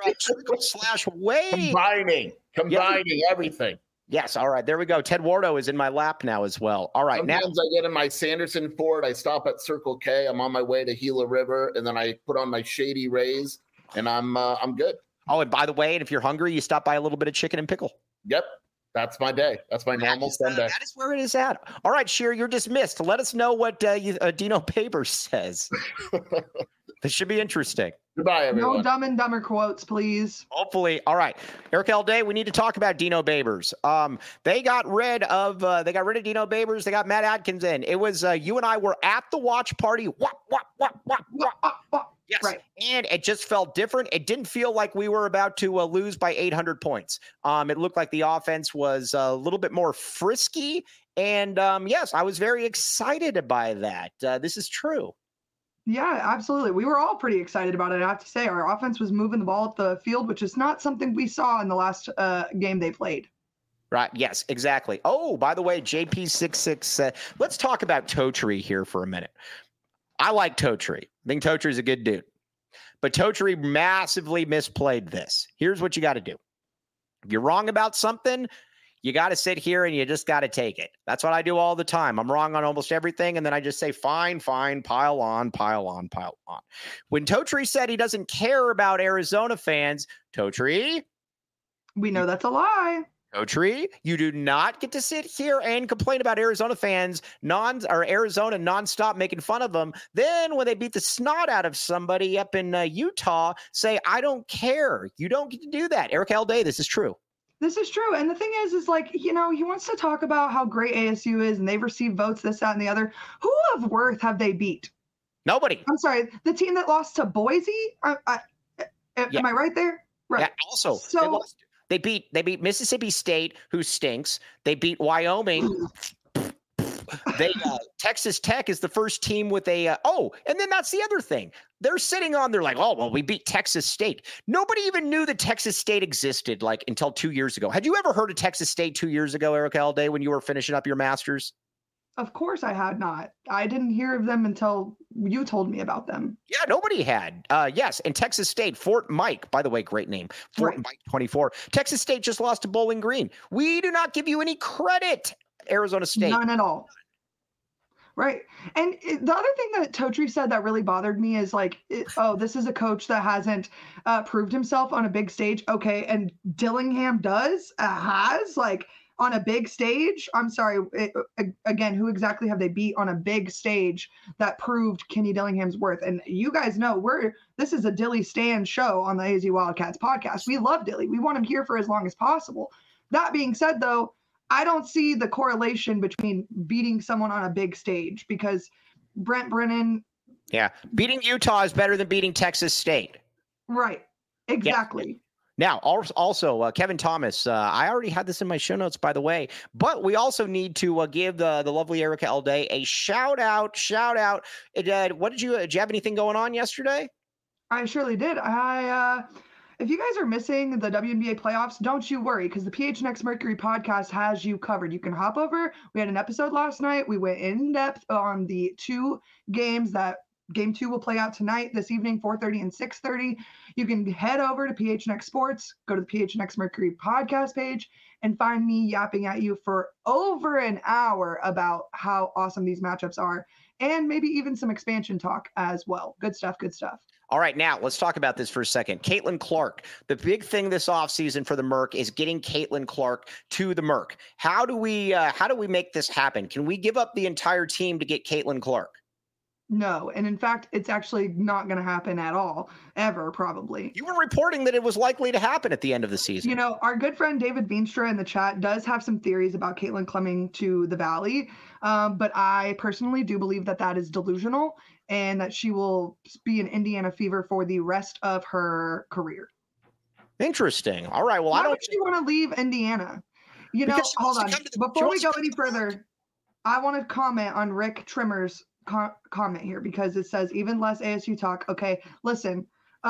/wave. Combining everything. Yes. All right. There we go. Ted Wardo is in my lap now as well. All right. Sometimes I get in my Sanderson Ford. I stop at Circle K. I'm on my way to Gila River, and then I put on my Shady Rays, and I'm good. Oh, and by the way, if you're hungry, you stop by a little bit of chicken and pickle. Yep. That's my day. That's my normal Sunday. That is where it is at. All right, Sheer, you're dismissed. Let us know what Dino Babers says. This should be interesting. Goodbye, everyone. No Dumb and Dumber quotes, please. Hopefully. All right. Eric L. Day, we need to talk about Dino Babers. They got rid of Dino Babers. They got Matt Adkins in. It was you and I were at the watch party. Yes. Right. And it just felt different. It didn't feel like we were about to lose by 800 points. It looked like the offense was a little bit more frisky. And yes, I was very excited by that. This is true. Yeah, absolutely. We were all pretty excited about it. I have to say, our offense was moving the ball at the field, which is not something we saw in the last game they played. Right. Yes, exactly. Oh, by the way, JP66, let's talk about Totri here for a minute. I like Totri. I think Totri's a good dude. But Totri massively misplayed this. Here's what you got to do. If you're wrong about something, you got to sit here and you just got to take it. That's what I do all the time. I'm wrong on almost everything, and then I just say, fine, pile on. When Totri said he doesn't care about Arizona fans, Totri, we know that's a lie. Totri, you do not get to sit here and complain about Arizona fans, Arizona nonstop making fun of them. Then when they beat the snot out of somebody up in Utah, say, I don't care. You don't get to do that. Eric L. Day, this is true. This is true. And the thing is like, he wants to talk about how great ASU is and they've received votes, this, that, and the other. Who of worth have they beat? Nobody. I'm sorry. The team that lost to Boise? Am I right there? Right. Yeah, also, They beat Mississippi State, who stinks. They beat Wyoming. Texas Tech is the first team with a and then that's the other thing. They're like, oh, well, we beat Texas State. Nobody even knew that Texas State existed until 2 years ago. Had you ever heard of Texas State 2 years ago, Eric L. Day, when you were finishing up your master's? Of course I had not. I didn't hear of them until you told me about them. Yeah, nobody had. Yes, and Texas State, Fort Mike, by the way, great name. Fort Mike 24. Texas State just lost to Bowling Green. We do not give you any credit, Arizona State. None at all. Right. And the other thing that Totri said that really bothered me is like, this is a coach that hasn't proved himself on a big stage. Okay. And Dillingham has like on a big stage. I'm sorry. Again, who exactly have they beat on a big stage that proved Kenny Dillingham's worth? And you guys know this is a Dilly Stan show on the AZ Wildcats podcast. We love Dilly. We want him here for as long as possible. That being said, though, I don't see the correlation between beating someone on a big stage because Brent Brennan. Yeah. Beating Utah is better than beating Texas State. Right. Exactly. Yeah. Now, also, Kevin Thomas, I already had this in my show notes, by the way, but we also need to give the lovely Erica Elday a shout out. Did you have anything going on yesterday? I surely did. If you guys are missing the WNBA playoffs, don't you worry, because the PHNX Mercury podcast has you covered. You can hop over. We had an episode last night. We went in depth on the 2 games that Game 2 will play out tonight, this evening, 4:30 and 6:30. You can head over to PHNX Sports, go to the PHNX Mercury podcast page, and find me yapping at you for over an hour about how awesome these matchups are, and maybe even some expansion talk as well. Good stuff. All right, now let's talk about this for a second. Caitlin Clark, the big thing this offseason for the Merc is getting Caitlin Clark to the Merc. How do we make this happen? Can we give up the entire team to get Caitlin Clark? No, and in fact, it's actually not going to happen at all, ever, probably. You were reporting that it was likely to happen at the end of the season. You know, our good friend David Veenstra in the chat does have some theories about Caitlin coming to the Valley, but I personally do believe that is delusional and that she will be an Indiana Fever for the rest of her career. Interesting. All right, well, Why would she want to leave Indiana? You know, hold on. Before we go any further, I want to comment on Rick Trimmer's comment here because it says even less ASU talk. Okay, listen.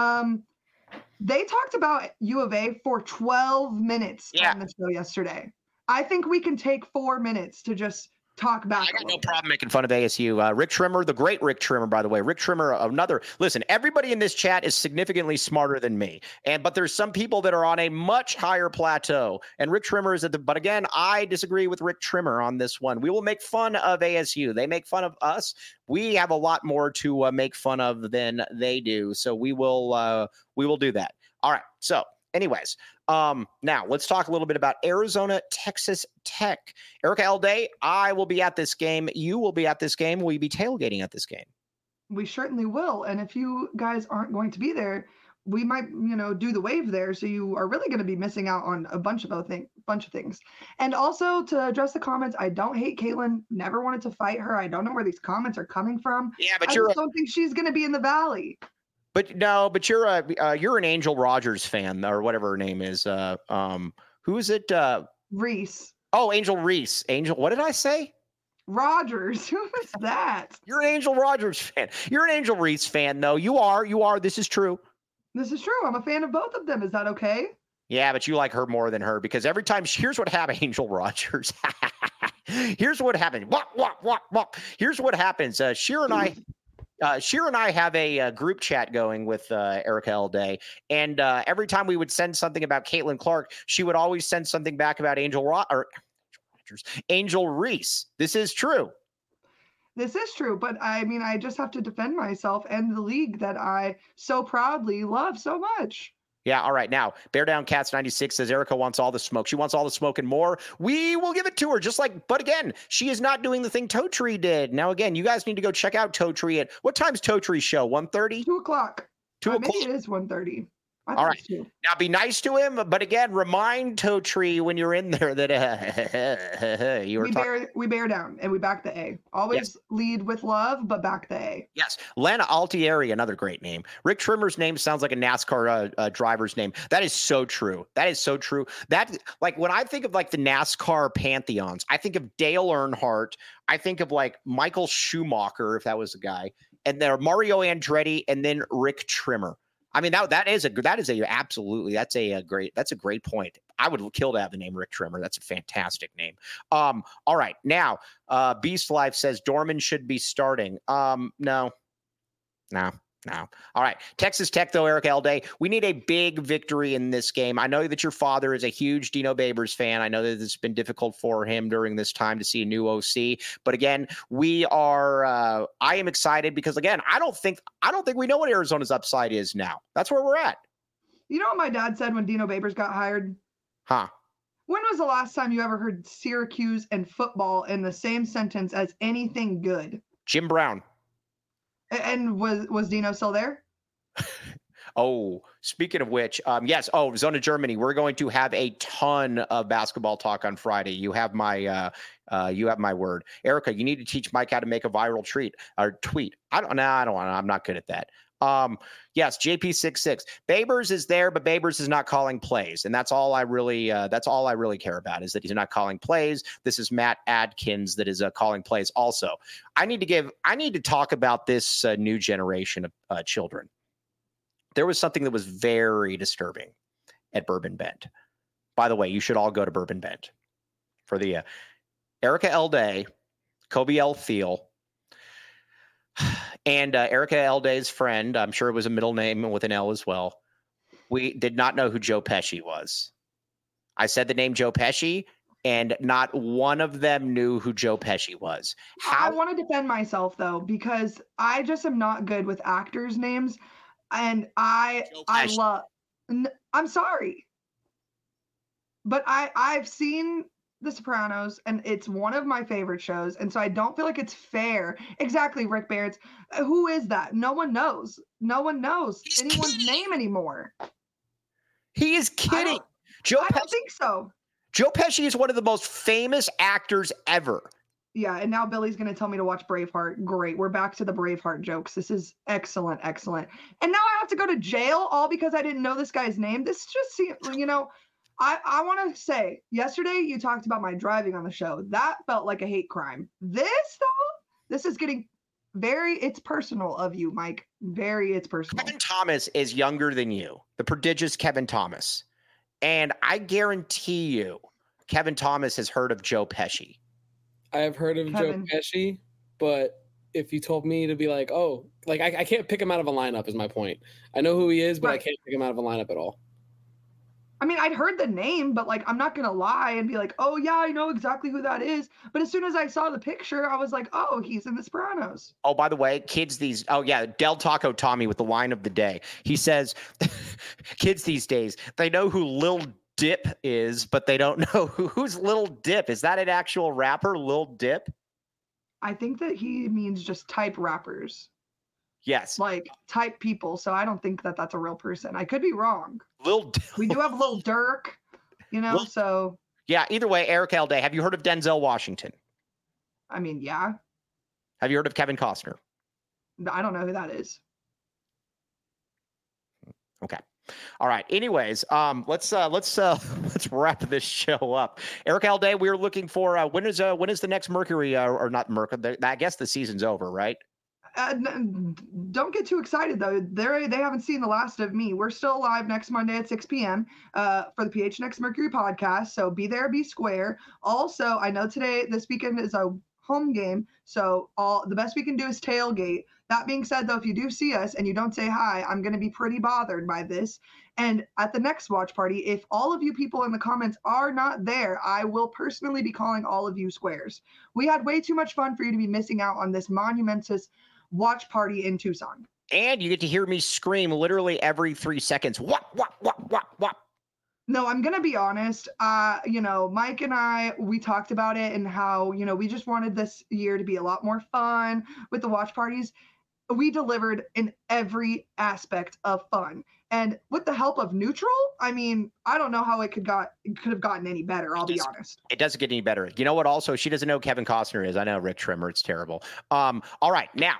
They talked about U of A for 12 minutes on the show yesterday. I think we can take 4 minutes to just talk back. I got no problem making fun of ASU. Rick Trimmer, the great Rick Trimmer, by the way. Rick Trimmer, listen, everybody in this chat is significantly smarter than me. But there's some people that are on a much higher plateau. And Rick Trimmer is but again, I disagree with Rick Trimmer on this one. We will make fun of ASU. They make fun of us. We have a lot more to make fun of than they do. So we will do that. All right. So anyways, now let's talk a little bit about Arizona, Texas Tech. Erica Elday, I will be at this game. You will be at this game. Will you be tailgating at this game? We certainly will. And if you guys aren't going to be there, we might, do the wave there. So you are really going to be missing out on a bunch of things. And also to address the comments, I don't hate Caitlin. Never wanted to fight her. I don't know where these comments are coming from. Yeah, but I just don't think she's going to be in the Valley. But you're an Angel Rogers fan or whatever her name is. Who is it? Reese. Oh, Angel Reese. Angel. What did I say? Rogers. Who is that? You're an Angel Rogers fan. You're an Angel Reese fan, though. You are. This is true. This is true. I'm a fan of both of them. Is that okay? Yeah, but you like her more than her because every time. Here's what happened, Angel Rogers. Here's what happened. Here's what happens. Sheer and I have a group chat going with Erica Elday, and every time we would send something about Caitlin Clark, she would always send something back about Angel Reese. This is true. This is true, but I mean, I just have to defend myself and the league that I so proudly love so much. Yeah, all right. Now, Bear Down Cats 96 says Erica wants all the smoke. She wants all the smoke and more. We will give it to her, but again, she is not doing the thing Totri did. Now, again, you guys need to go check out Totri at what time's Totri's show? 1:30? 2 o'clock. 2 o'clock. Maybe it is 1:30. All right. Now, be nice to him, but again, remind Totri when you're in there that we bear down and we back the A. Always lead with love, but back the A. Yes. Lana Altieri, another great name. Rick Trimmer's name sounds like a NASCAR driver's name. That is so true. That, like, when I think of like the NASCAR pantheons, I think of Dale Earnhardt. I think of like Michael Schumacher, if that was the guy, and there Mario Andretti, and then Rick Trimmer. I mean, that is a great point. I would kill to have the name Rick Trimmer. That's a fantastic name. All right. Now, Beast Life says Dorman should be starting. No. All right. Texas Tech, though, Eric Elday, we need a big victory in this game. I know that your father is a huge Dino Babers fan. I know that it's been difficult for him during this time to see a new OC. But again, I am excited because, again, I don't think we know what Arizona's upside is now. That's where we're at. You know what my dad said when Dino Babers got hired? Huh? When was the last time you ever heard Syracuse and football in the same sentence as anything good? Jim Brown. And was Dino still there? Oh, speaking of which, yes. Oh, Zona Germany. We're going to have a ton of basketball talk on Friday. You have my word, Erica. You need to teach Mike how to make a viral tweet. I don't. I'm not good at that. Yes, JP66. Babers is there, but Babers is not calling plays, and that's all I really care about is that he's not calling plays. This is Matt Adkins that is calling plays. Also, I need to talk about this new generation of children. There was something that was very disturbing at Bourbon Bend. By the way, you should all go to Bourbon Bend for the Erica Elday, Kobe L. Thiel. And Erica Elday's friend, I'm sure it was a middle name with an L as well. We did not know who Joe Pesci was. I said the name Joe Pesci, and not one of them knew who Joe Pesci was. I want to defend myself, though, because I just am not good with actors' names. And I'm sorry. But I've seen The Sopranos, and it's one of my favorite shows, and so I don't feel like it's fair. Exactly, Rick Barretts. Who is that? No one knows. No one knows anyone's name anymore. He is kidding. I don't think so. Joe Pesci is one of the most famous actors ever. Yeah, and now Billy's going to tell me to watch Braveheart. Great. We're back to the Braveheart jokes. This is excellent. And now I have to go to jail all because I didn't know this guy's name. This just seems, I want to say, yesterday you talked about my driving on the show. That felt like a hate crime. This is getting it's personal of you, Mike. It's personal. Kevin Thomas is younger than you, the prodigious Kevin Thomas. And I guarantee you, Kevin Thomas has heard of Joe Pesci. I have heard of Joe Pesci, but if you told me to be like, oh, like I can't pick him out of a lineup is my point. I know who he is, but right. I can't pick him out of a lineup at all. I mean, I'd heard the name, but like, I'm not going to lie and be like, oh yeah, I know exactly who that is. But as soon as I saw the picture, I was like, oh, he's in The Sopranos. Oh, by the way, Del Taco Tommy with the line of the day. He says, kids these days, they know who Lil Dip is, but they don't know who's Lil Dip. Is that an actual rapper, Lil Dip? I think that he means just type rappers. Yes. Like type people. So I don't think that that's a real person. I could be wrong. We do have Lil Durk, so. Yeah, either way, Eric Elday, have you heard of Denzel Washington? I mean, yeah. Have you heard of Kevin Costner? I don't know who that is. Okay. All right. Anyways, let's wrap this show up. Eric Elday, we're looking for when is the next Mercury or not Mercury? I guess the season's over, right? Don't get too excited though. They haven't seen the last of me. We're still live next Monday at 6 p.m. For the PHNX Mercury podcast. So be there, be square. Also, I know this weekend is a home game, so the best we can do is tailgate. That being said, though, if you do see us and you don't say hi, I'm going to be pretty bothered by this. And at the next watch party, if all of you people in the comments are not there, I will personally be calling all of you squares. We had way too much fun for you to be missing out on this monumentous watch party in Tucson. And you get to hear me scream literally every 3 seconds. Whop, whop, whop, whop, whop. No, I'm going to be honest. Mike and I, we talked about it and how, we just wanted this year to be a lot more fun with the watch parties. We delivered in every aspect of fun. And with the help of Neutral, I mean, I don't know how it could have gotten any better. I'll be honest. It doesn't get any better. You know what? Also, she doesn't know who Kevin Costner is. I know Rick Trimmer. It's terrible. All right. Now,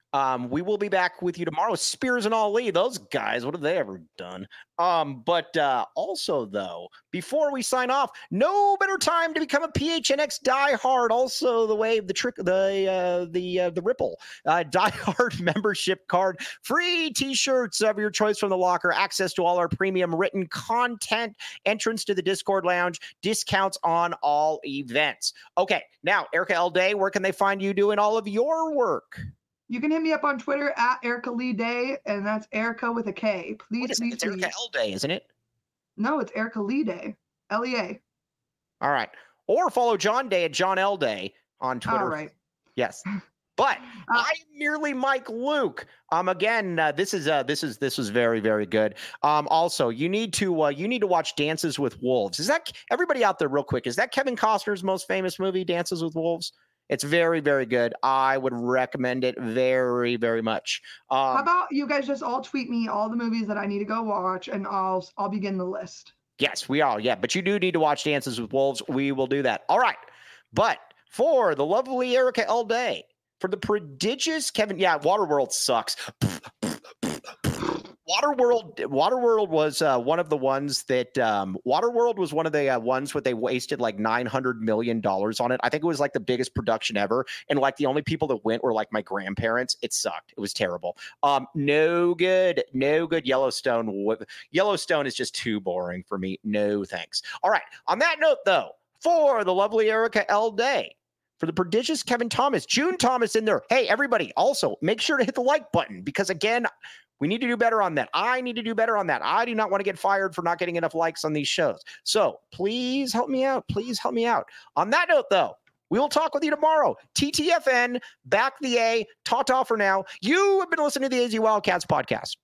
We will be back with you tomorrow. Spears and Ali, those guys, what have they ever done? But also, though, before we sign off, no better time to become a PHNX diehard. Also, the Wave, the Trick, the Ripple diehard membership card, free T-shirts of your choice from the locker, access to all our premium written content, entrance to the Discord lounge, discounts on all events. Okay, now Erica L. Day, where can they find you doing all of your work? You can hit me up on Twitter at Erica Lee Day, and that's Erica with a K. Please. It's Erica L. Day, isn't it? No, it's Erica Lee Day. L-E-A. All right. Or follow John Day at John L. Day on Twitter. All right. Yes. But I'm merely Mike Luke. Again, this was very, very good. Also, you need to watch Dances with Wolves. Is that everybody out there real quick? Is that Kevin Costner's most famous movie, Dances with Wolves? It's very, very good. I would recommend it very, very much. How about you guys just all tweet me all the movies that I need to go watch, and I'll begin the list. Yes, we are. Yeah, but you do need to watch Dances with Wolves. We will do that. All right. But for the lovely Erica L. Day, for the prodigious Kevin, Waterworld sucks. Waterworld was one of the ones that Waterworld was one of the ones where they wasted like $900 million on it. I think it was like the biggest production ever. And like the only people that went were like my grandparents. It sucked. It was terrible. No good. Yellowstone is just too boring for me. No thanks. All right. On that note, though, for the lovely Erica L. Day, for the prodigious Kevin Thomas, June Thomas in there. Hey, everybody, also make sure to hit the like button because, again, we need to do better on that. I need to do better on that. I do not want to get fired for not getting enough likes on these shows. So please help me out. Please help me out. On that note, though, we will talk with you tomorrow. TTFN, back the A, ta-ta for now. You have been listening to the AZ Wildcats podcast.